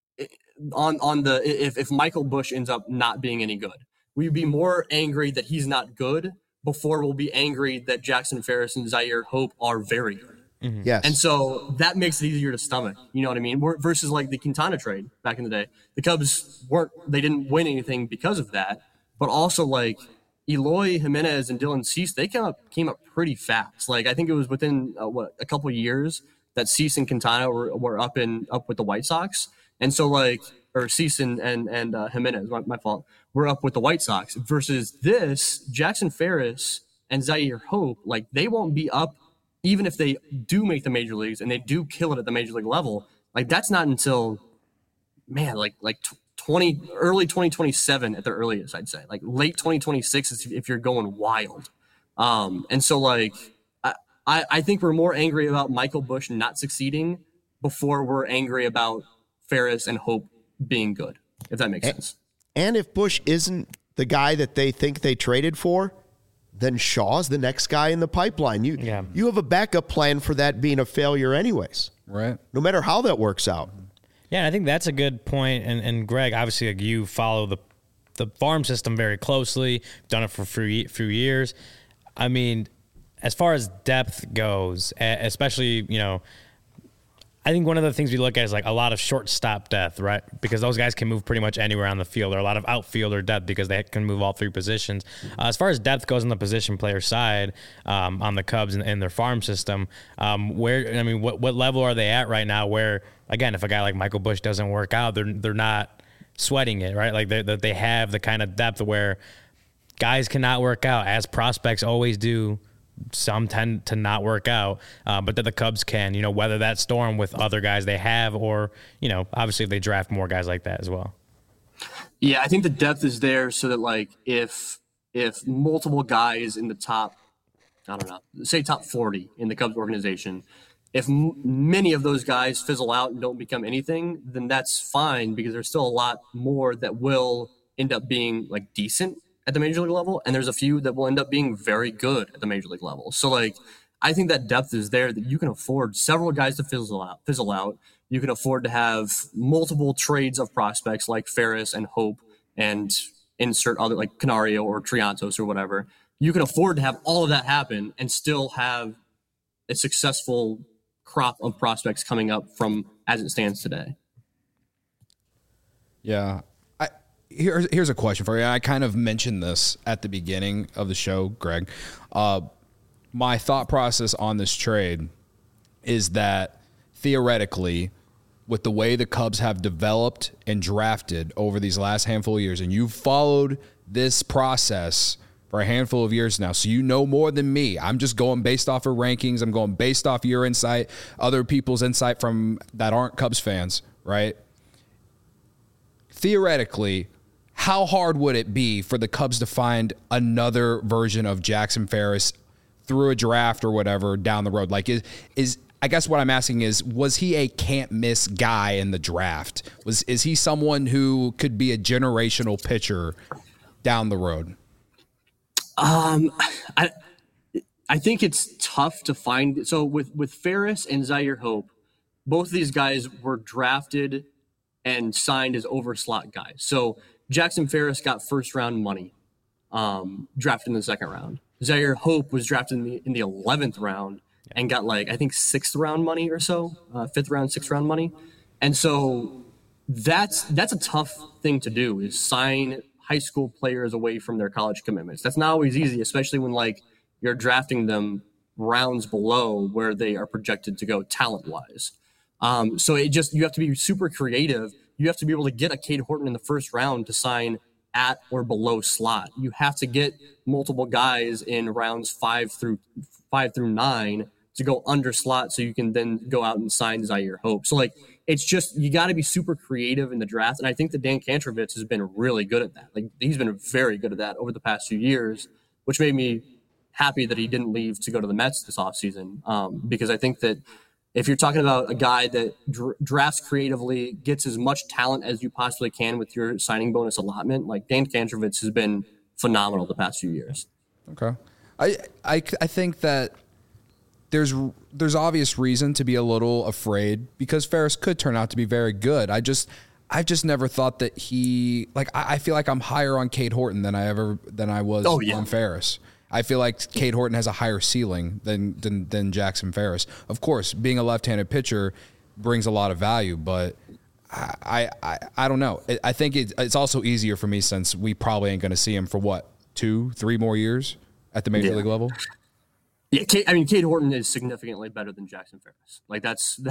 if Michael Busch ends up not being any good, we'd be more angry that he's not good before we'll be angry that Jackson Ferris and Zaire Hope are very good. Mm-hmm. Yes. And so that makes it easier to stomach. You know what I mean? Versus like the Quintana trade back in the day. The Cubs didn't win anything because of that. But also, like, Eloy Jimenez and Dylan Cease, they came up pretty fast. Like, I think it was within a couple of years that Cease and Quintana were up with the White Sox. And so or Cease and Jimenez, my fault, were up with the White Sox versus this Jackson Ferris and Zaire Hope. Like, they won't be up even if they do make the major leagues and they do kill it at the major league level. Like, that's not until, man, early 2027 at the earliest, I'd say. Like, late 2026 if you're going wild. And so, like, I think we're more angry about Michael Busch not succeeding before we're angry about Ferris and Hope being good, if that makes sense. And if Busch isn't the guy that they think they traded for, then Shaw's the next guy in the pipeline. You have a backup plan for that being a failure anyways. Right. No matter how that works out. Yeah, and I think that's a good point. And Greg, obviously, like, you follow the farm system very closely. You've done it for a few years. I mean, as far as depth goes, especially, I think one of the things we look at is like a lot of shortstop depth, right? Because those guys can move pretty much anywhere on the field. Or a lot of outfielder depth because they can move all three positions. As far as depth goes on the position player side, on the Cubs and their farm system, what level are they at right now? Where, again, if a guy like Michael Busch doesn't work out, they're not sweating it, right? Like they have the kind of depth where guys cannot work out, as prospects always do. Some tend to not work out, but that the Cubs can, weather that storm with other guys they have, or, obviously if they draft more guys like that as well. Yeah, I think the depth is there so that, like, if multiple guys in the top, I don't know, say top 40 in the Cubs organization, if many of those guys fizzle out and don't become anything, then that's fine because there's still a lot more that will end up being, like, decent at the major league level, and there's a few that will end up being very good at the major league level. So, like, I think that depth is there, that you can afford several guys to fizzle out. You can afford to have multiple trades of prospects like Ferris and Hope and insert other, like Canario or Triantos or whatever. You can afford to have all of that happen and still have a successful crop of prospects coming up from as it stands today. Yeah. Here's a question for you. I kind of mentioned this at the beginning of the show, Greg. My thought process on this trade is that theoretically, with the way the Cubs have developed and drafted over these last handful of years, and you've followed this process for a handful of years now, so you know more than me. I'm just going based off of rankings. I'm going based off your insight, other people's insight from that aren't Cubs fans, right? Theoretically, how hard would it be for the Cubs to find another version of Jackson Ferris through a draft or whatever down the road? Like, is I guess what I'm asking is, was he a can't miss guy in the draft? Is he someone who could be a generational pitcher down the road? I think it's tough to find. So with Ferris and Zaire Hope, both of these guys were drafted and signed as overslot guys. So Jackson Ferris got first round money, drafted in the second round. Zaire Hope was drafted in the 11th round and got, like, I think 6th round money or so, 5th round, 6th round money. And so that's a tough thing to do, is sign high school players away from their college commitments. That's not always easy, especially when, like, you're drafting them rounds below where they are projected to go talent wise. So you have to be super creative. You have to be able to get a Cade Horton in the first round to sign at or below slot. You have to get multiple guys in rounds 5 through 9 to go under slot, so you can then go out and sign Zaire Hope. So, like, it's just, you got to be super creative in the draft. And I think that Dan Kantrovitz has been really good at that. Like, he's been very good at that over the past few years, which made me happy that he didn't leave to go to the Mets this offseason. Because I think that if you're talking about a guy that drafts creatively, gets as much talent as you possibly can with your signing bonus allotment, like, Dan Kantrovitz has been phenomenal the past few years. Okay. I think that there's obvious reason to be a little afraid, because Ferris could turn out to be very good. I've just never thought that he, like, I feel like I'm higher on Cade Horton than I was on Ferris. I feel like Cade Horton has a higher ceiling than Jackson Ferris. Of course, being a left-handed pitcher brings a lot of value, but I don't know. I think it's also easier for me, since we probably ain't going to see him for 2-3 more years at the major league level? Yeah, Cade Horton is significantly better than Jackson Ferris. Like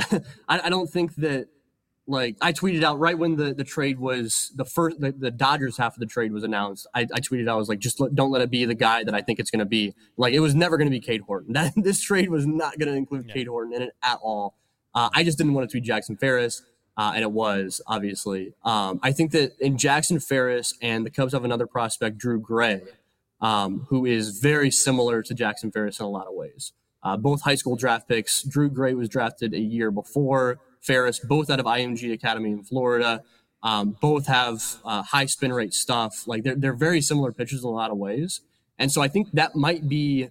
I don't think that. Like I tweeted out right when the trade was the Dodgers half of the trade was announced. I tweeted out, I was like, don't let it be the guy that I think it's going to be. Like it was never going to be Cade Horton. This trade was not going to include Cade Horton in it at all. I just didn't want it to be Jackson Ferris, and it was obviously. I think that in Jackson Ferris and the Cubs have another prospect, Drew Gray, who is very similar to Jackson Ferris in a lot of ways. Both high school draft picks. Drew Gray was drafted a year before Ferris, both out of IMG Academy in Florida. Both have high spin rate stuff. Like they're very similar pitchers in a lot of ways. And so I think that might be,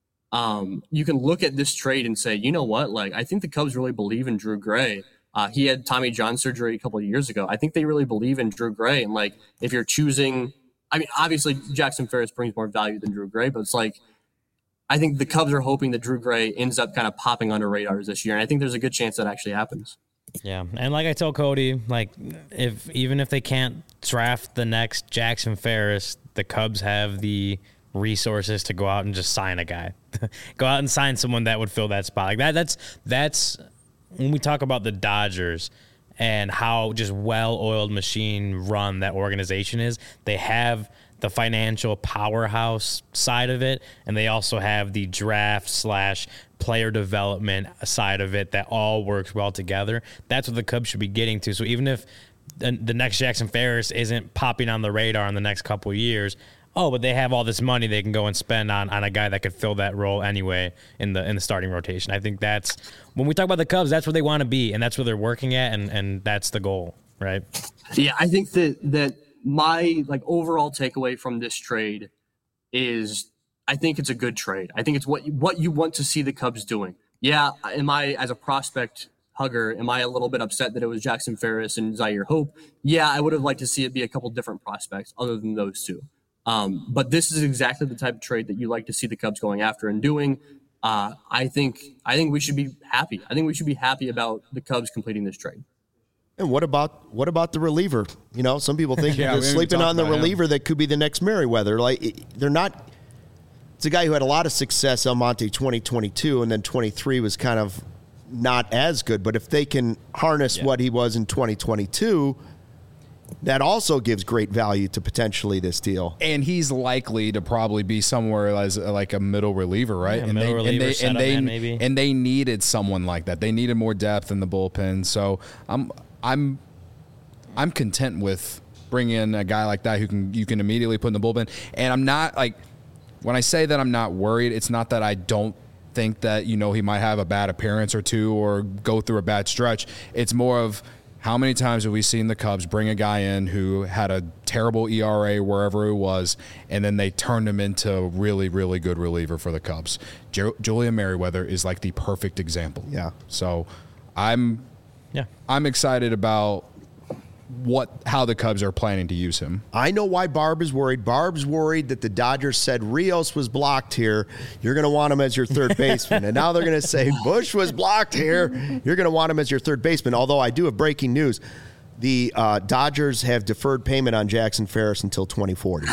you can look at this trade and say, you know what? Like, I think the Cubs really believe in Drew Gray. He had Tommy John surgery a couple of years ago. I think they really believe in Drew Gray. And like, if you're choosing, I mean, obviously Jackson Ferris brings more value than Drew Gray, but it's like, I think the Cubs are hoping that Drew Gray ends up kind of popping under radars this year. And I think there's a good chance that actually happens. Yeah, and like I told Cody, like even if they can't draft the next Jackson Ferris, the Cubs have the resources to go out and just sign a guy, go out and sign someone that would fill that spot. Like that's when we talk about the Dodgers and how just well-oiled machine run that organization is. They have the financial powerhouse side of it, and they also have the draft / player development side of it that all works well together. That's what the Cubs should be getting to. So even if the next Jackson Ferris isn't popping on the radar in the next couple of years, but they have all this money they can go and spend on a guy that could fill that role anyway in the starting rotation. I think that's when we talk about the Cubs, that's where they want to be, and that's where they're working at, and that's the goal, right? Yeah, I think that my like overall takeaway from this trade is I think it's a good trade. I think it's what you want to see the Cubs doing. Yeah, am I, as a prospect hugger, am I a little bit upset that it was Jackson Ferris and Zaire Hope? Yeah, I would have liked to see it be a couple different prospects other than those two. But this is exactly the type of trade that you like to see the Cubs going after and doing. I think we should be happy. I think we should be happy about the Cubs completing this trade. And what about the reliever? You know, some people think Yeah, you're we haven't sleeping talked on the about him. reliever that could be the next Merriweather. Like they're not. It's a guy who had a lot of success, Almonte, 2022, and then 23 was kind of not as good. But if they can harness what he was in 2022, that also gives great value to potentially this deal. And he's likely to probably be somewhere as like a middle reliever, right? Yeah, middle reliever, setup man, maybe. And they needed someone like that. They needed more depth in the bullpen. So I'm content with bringing in a guy like that who you can immediately put in the bullpen. And I'm not like, when I say that I'm not worried, it's not that I don't think that, you know, he might have a bad appearance or two or go through a bad stretch. It's more of how many times have we seen the Cubs bring a guy in who had a terrible ERA wherever it was, and then they turned him into a really, really good reliever for the Cubs. Julian Merriweather is like the perfect example. Yeah. So I'm excited about how the Cubs are planning to use him. I know why Barb is worried. Barb's worried that the Dodgers said Rios was blocked here. You're going to want him as your third baseman. And now they're going to say Bush was blocked here. You're going to want him as your third baseman. Although I do have breaking news. The Dodgers have deferred payment on Jackson Ferris until 2040.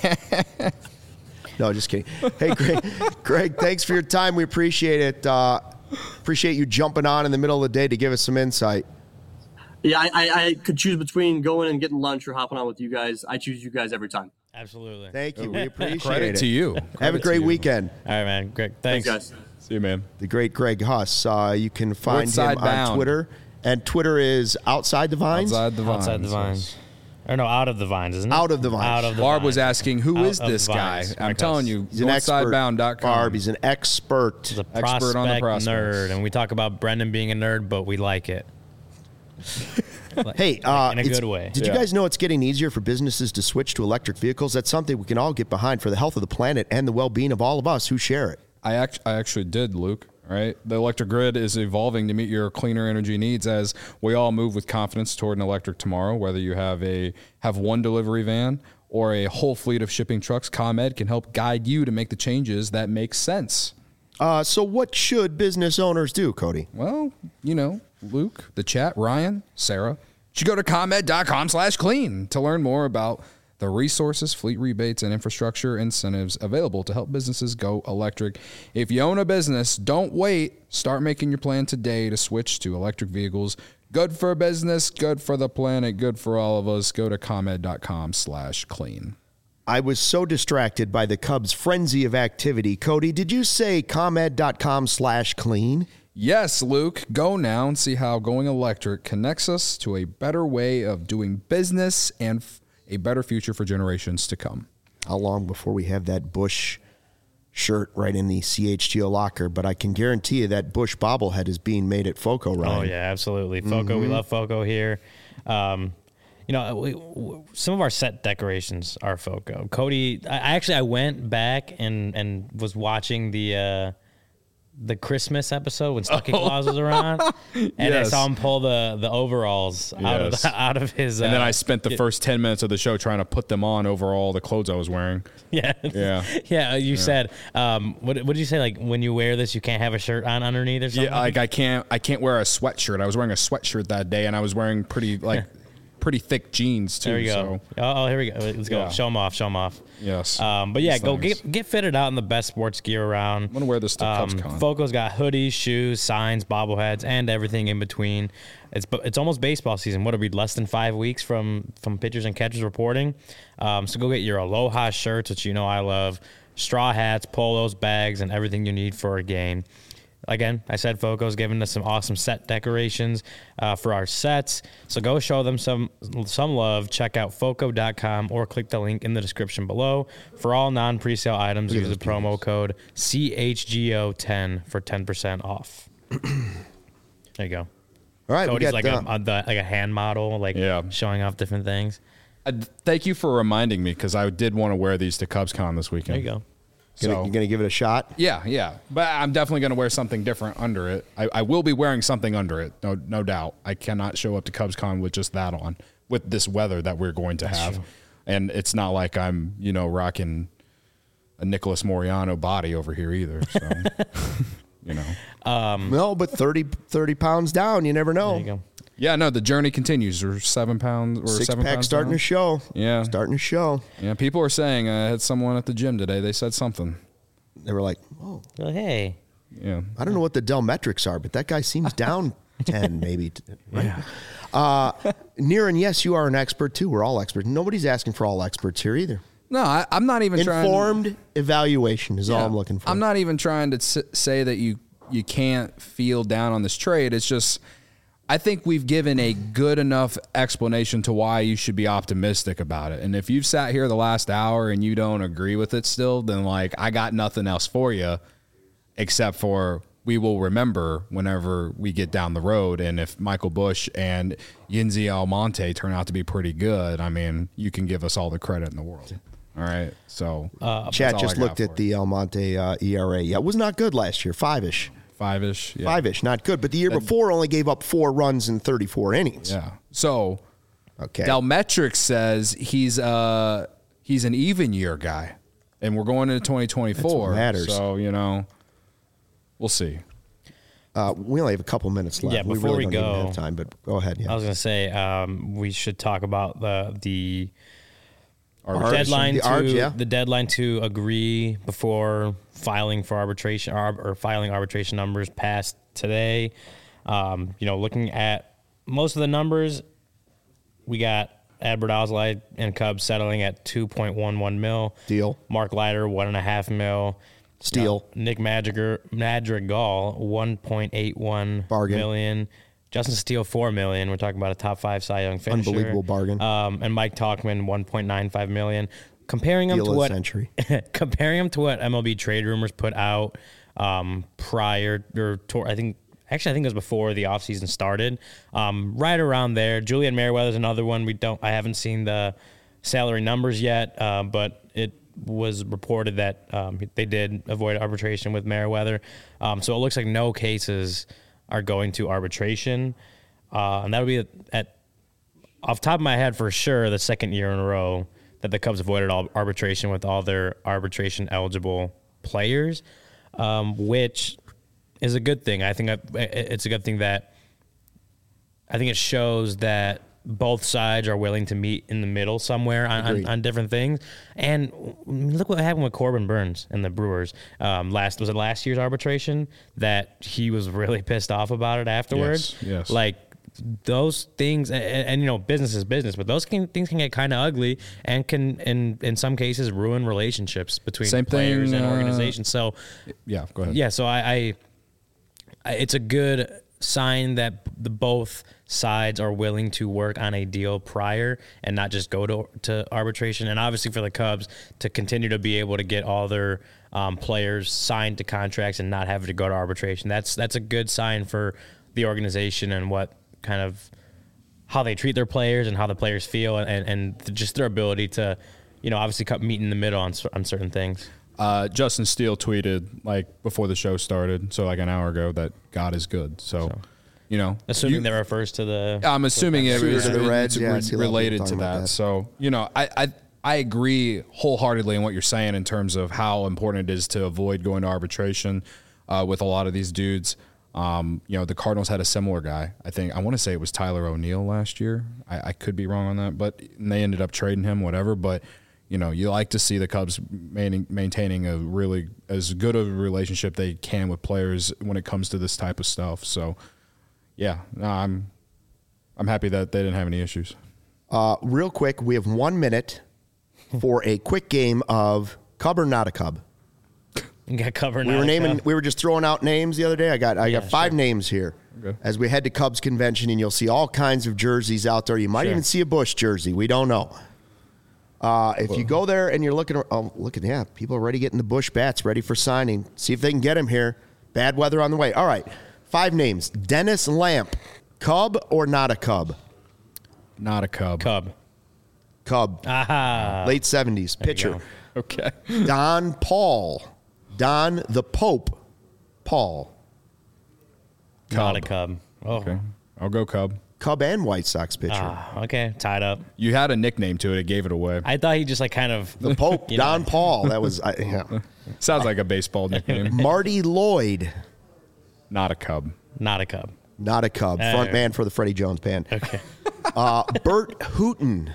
No, just kidding. Hey, Greg, thanks for your time. We appreciate it. Appreciate you jumping on in the middle of the day to give us some insight. Yeah, I could choose between going and getting lunch or hopping on with you guys. I choose you guys every time. Absolutely. Thank you. We appreciate Credit it. to you. Have a great weekend. All right, man. Great. Thanks. Thanks, guys. See you, man. The great Greg Huss. You can find Woodside him Bound. on Twitter. And Twitter is Outside the Vines? Outside the Vines. Outside the Vines. Or no, Out of the Vines, isn't it? Out of the Vines. Out of the Barb Vines. was asking, who Out is of this the guy? Vines. I'm telling you, He's an expert. Northsidebound.com. Barb, he's an expert. He's a Expert on the prospect prospects. nerd, and we talk about Brendan being a nerd, but we like it. Hey, in a it's- good way. Did you guys know it's getting easier for businesses to switch to electric vehicles? That's something we can all get behind for the health of the planet and the well-being of all of us who share it. I actually did, Luke. Right, the electric grid is evolving to meet your cleaner energy needs as we all move with confidence toward an electric tomorrow. Whether you have one delivery van or a whole fleet of shipping trucks, ComEd can help guide you to make the changes that make sense. So what should business owners do, Cody? Well, you know, Luke, the chat, Ryan, Sarah, should go to ComEd.com/clean to learn more about the resources, fleet rebates, and infrastructure incentives available to help businesses go electric. If you own a business, don't wait. Start making your plan today to switch to electric vehicles. Good for business, good for the planet, good for all of us. Go to ComEd.com/clean. I was so distracted by the Cubs' frenzy of activity. Cody, did you say ComEd.com/clean? Yes, Luke. Go now and see how going electric connects us to a better way of doing business and a better future for generations to come. How long before we have that Bush shirt right in the CHGO locker? But I can guarantee you that Bush bobblehead is being made at FOCO, Ryan. Oh, yeah, absolutely. FOCO, we love FOCO here. You know, some of our set decorations are FOCO. Cody, I went back and was watching the Christmas episode when Stucky Claus was around, and I saw him pull the overalls out of his. And then I spent the first 10 minutes of the show trying to put them on over all the clothes I was wearing. Yeah. You said, what did you say? Like when you wear this, you can't have a shirt on underneath or something. Yeah, like I can't wear a sweatshirt. I was wearing a sweatshirt that day, and I was wearing pretty thick jeans too. There we go. So. Here we go. Let's go. Yeah. Show them off. Yes. But yeah, go get fitted out in the best sports gear around. I'm gonna wear this to CubsCon. FOCO's got hoodies, shoes, signs, bobbleheads, and everything in between. It's almost baseball season. What are we, less than 5 weeks from pitchers and catchers reporting? So go get your Aloha shirts, which you know I love, straw hats, polos, bags, and everything you need for a game. Again, I said FOCO's giving us some awesome set decorations for our sets. So go show them some love. Check out FOCO.com or click the link in the description below. For all non-presale items, use the promo code CHGO10 for 10% off. There you go. All right, Cody's like a hand model, showing off different things. Thank you for reminding me, because I did want to wear these to CubsCon this weekend. There you go. You're going to give it a shot? Yeah. But I'm definitely going to wear something different under it. I will be wearing something under it, no doubt. I cannot show up to CubsCon with just that on, with this weather that we're going to have. True. And it's not like I'm, rocking a Nicholas Moriano body over here either. So, No, but 30 pounds down, you never know. There you go. Yeah, no, the journey continues. We're 7 pounds or 7 Six-pack pounds starting down. to show. Yeah. Starting to show. Yeah, people are saying, I had someone at the gym today, they said something. They were like, oh. Well, hey. Yeah. I don't know what the Dell metrics are, but that guy seems down 10 maybe. Right? Yeah. Niran, yes, you are an expert too. We're all experts. Nobody's asking for all experts here either. No, I'm not even trying. Informed evaluation is all I'm looking for. I'm not even trying to say that you can't feel down on this trade. It's just, I think we've given a good enough explanation to why you should be optimistic about it. And if you've sat here the last hour and you don't agree with it still, then I got nothing else for you except for we will remember whenever we get down the road. And if Michael Busch and Yinzi Almonte turn out to be pretty good, I mean, you can give us all the credit in the world. All right. So Chat just looked at the Almonte ERA. Yeah, it was not good last year. 5-ish. Five-ish, yeah. 5-ish, not good. But the year before only gave up 4 runs in 34 innings. Yeah. So, okay. Delmetrics says he's an even year guy, and we're going into 2024. That's what matters. So we'll see. We only have a couple minutes left. Yeah, before we really don't go, even have time, but go ahead. Yeah. I was going to say we should talk about the Arbitration. the deadline to agree before filing for arbitration or filing arbitration numbers passed today. Looking at most of the numbers, we got Adbert Alzolay and Cubs settling at $2.11 million. Deal. Mark Leiter, $1.5 million. Steal. Nick Madrigal, $1.81 bargain. million. Justin Steele, $4 million. We're talking about a top 5 Cy Young finisher. Unbelievable bargain. And Mike Tauchman, $1.95 million. Comparing them to what MLB Trade Rumors put out prior or I think it was before the offseason started. Right around there. Julian Merriweather's another one. I haven't seen the salary numbers yet, but it was reported that they did avoid arbitration with Merriweather. So it looks like no cases are going to arbitration. And that'll be off the top of my head for sure the second year in a row that the Cubs avoided all arbitration with all their arbitration eligible players, which is a good thing. I think it's a good thing that I think it shows that both sides are willing to meet in the middle somewhere on different things. And look what happened with Corbin Burns and the Brewers. Was it last year's arbitration that he was really pissed off about it afterwards? Yes. Like those things, and you know, business is business, but those things can get kind of ugly and can, in some cases, ruin relationships between players and organizations. So, yeah, go ahead. Yeah, so I it's a good sign that both sides are willing to work on a deal prior and not just go to arbitration. And obviously for the Cubs to continue to be able to get all their players signed to contracts and not having to go to arbitration, that's a good sign for the organization and what kind of how they treat their players and how the players feel and just their ability to, you know, obviously meet in the middle on certain things. Justin Steele tweeted like before the show started, so like an hour ago, that God is good. So you know, assuming that refers to the. I'm assuming it was the Reds, related to that. So you know, I agree wholeheartedly in what you're saying in terms of how important it is to avoid going to arbitration with a lot of these dudes. You know, the Cardinals had a similar guy. I want to say it was Tyler O'Neill last year. I could be wrong on that, but they ended up trading him, whatever. But you know, you like to see the Cubs maintaining a really as good of a relationship they can with players when it comes to this type of stuff. So, yeah, no, I'm happy that they didn't have any issues. Real quick, we have 1 minute for a quick game of Cub or not a Cub. You got covered. We were just throwing out names the other day. I got 5 names here. Okay. As we head to Cubs convention, and you'll see all kinds of jerseys out there. You might even see a Busch jersey. We don't know. If you go there and you're looking, people are already getting the Busch bats ready for signing. See if they can get them here. Bad weather on the way. All right, 5 names. Dennis Lamp, Cub or not a Cub? Not a Cub. Cub. Aha. Late 70s pitcher. Okay. Don Paul. Don the Pope. Paul. Not a Cub. Oh. Okay. I'll go Cub. Cub and White Sox pitcher. Okay, tied up. You had a nickname to it. It gave it away. I thought he just like kind of the Pope, Don Paul. That was Sounds like a baseball nickname. Marty Lloyd. Not a Cub. Not a Cub. Not a Cub. Front man for the Freddie Jones Band. Okay. Bert Hooton.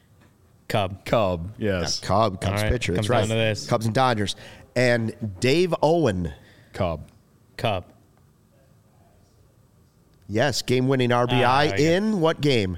Cub. Yes. Cubs right, pitcher. That's right. Down to this. Cubs and Dodgers. And Dave Owen. Cub. Yes, game-winning RBI in what game?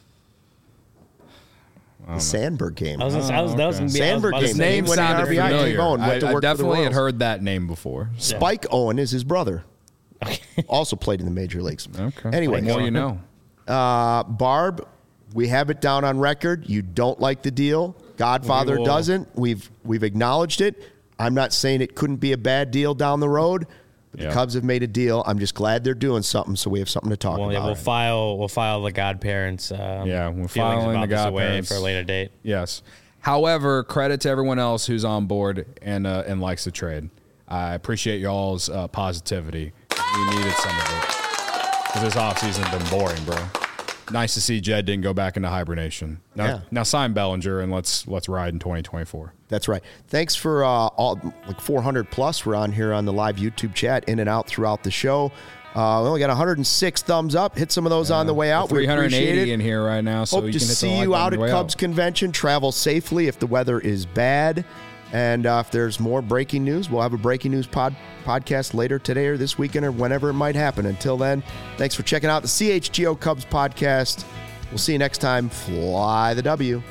The Sandberg game. Sandberg game. Name sounded familiar. Dave Owen went to work I definitely for the had heard that name before. Spike Owen is his brother. Also played in the major leagues. Okay. Anyway. Well, you know. Barb, we have it down on record. You don't like the deal. Godfather doesn't. We've acknowledged it. I'm not saying it couldn't be a bad deal down the road. The Cubs have made a deal. I'm just glad they're doing something, so we have something to talk about. Yeah, we'll file the godparents. We're filing the godparents for a later date. Yes. However, credit to everyone else who's on board and likes the trade. I appreciate y'all's positivity. We needed some of it because this offseason has been boring, bro. Nice to see Jed didn't go back into hibernation. Now sign Bellinger and let's ride in 2024. That's right. Thanks for all like 400 plus. We're on here on the live YouTube chat, in and out throughout the show. We only got 106 thumbs up. Hit some of those on the way out. 380 in here right now. So hope you to can hit see you out at Cubs convention. Travel safely if the weather is bad. And if there's more breaking news, we'll have a breaking news podcast later today or this weekend or whenever it might happen. Until then, thanks for checking out the CHGO Cubs podcast. We'll see you next time. Fly the W.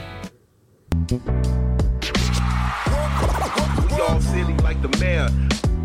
We all silly like the mayor.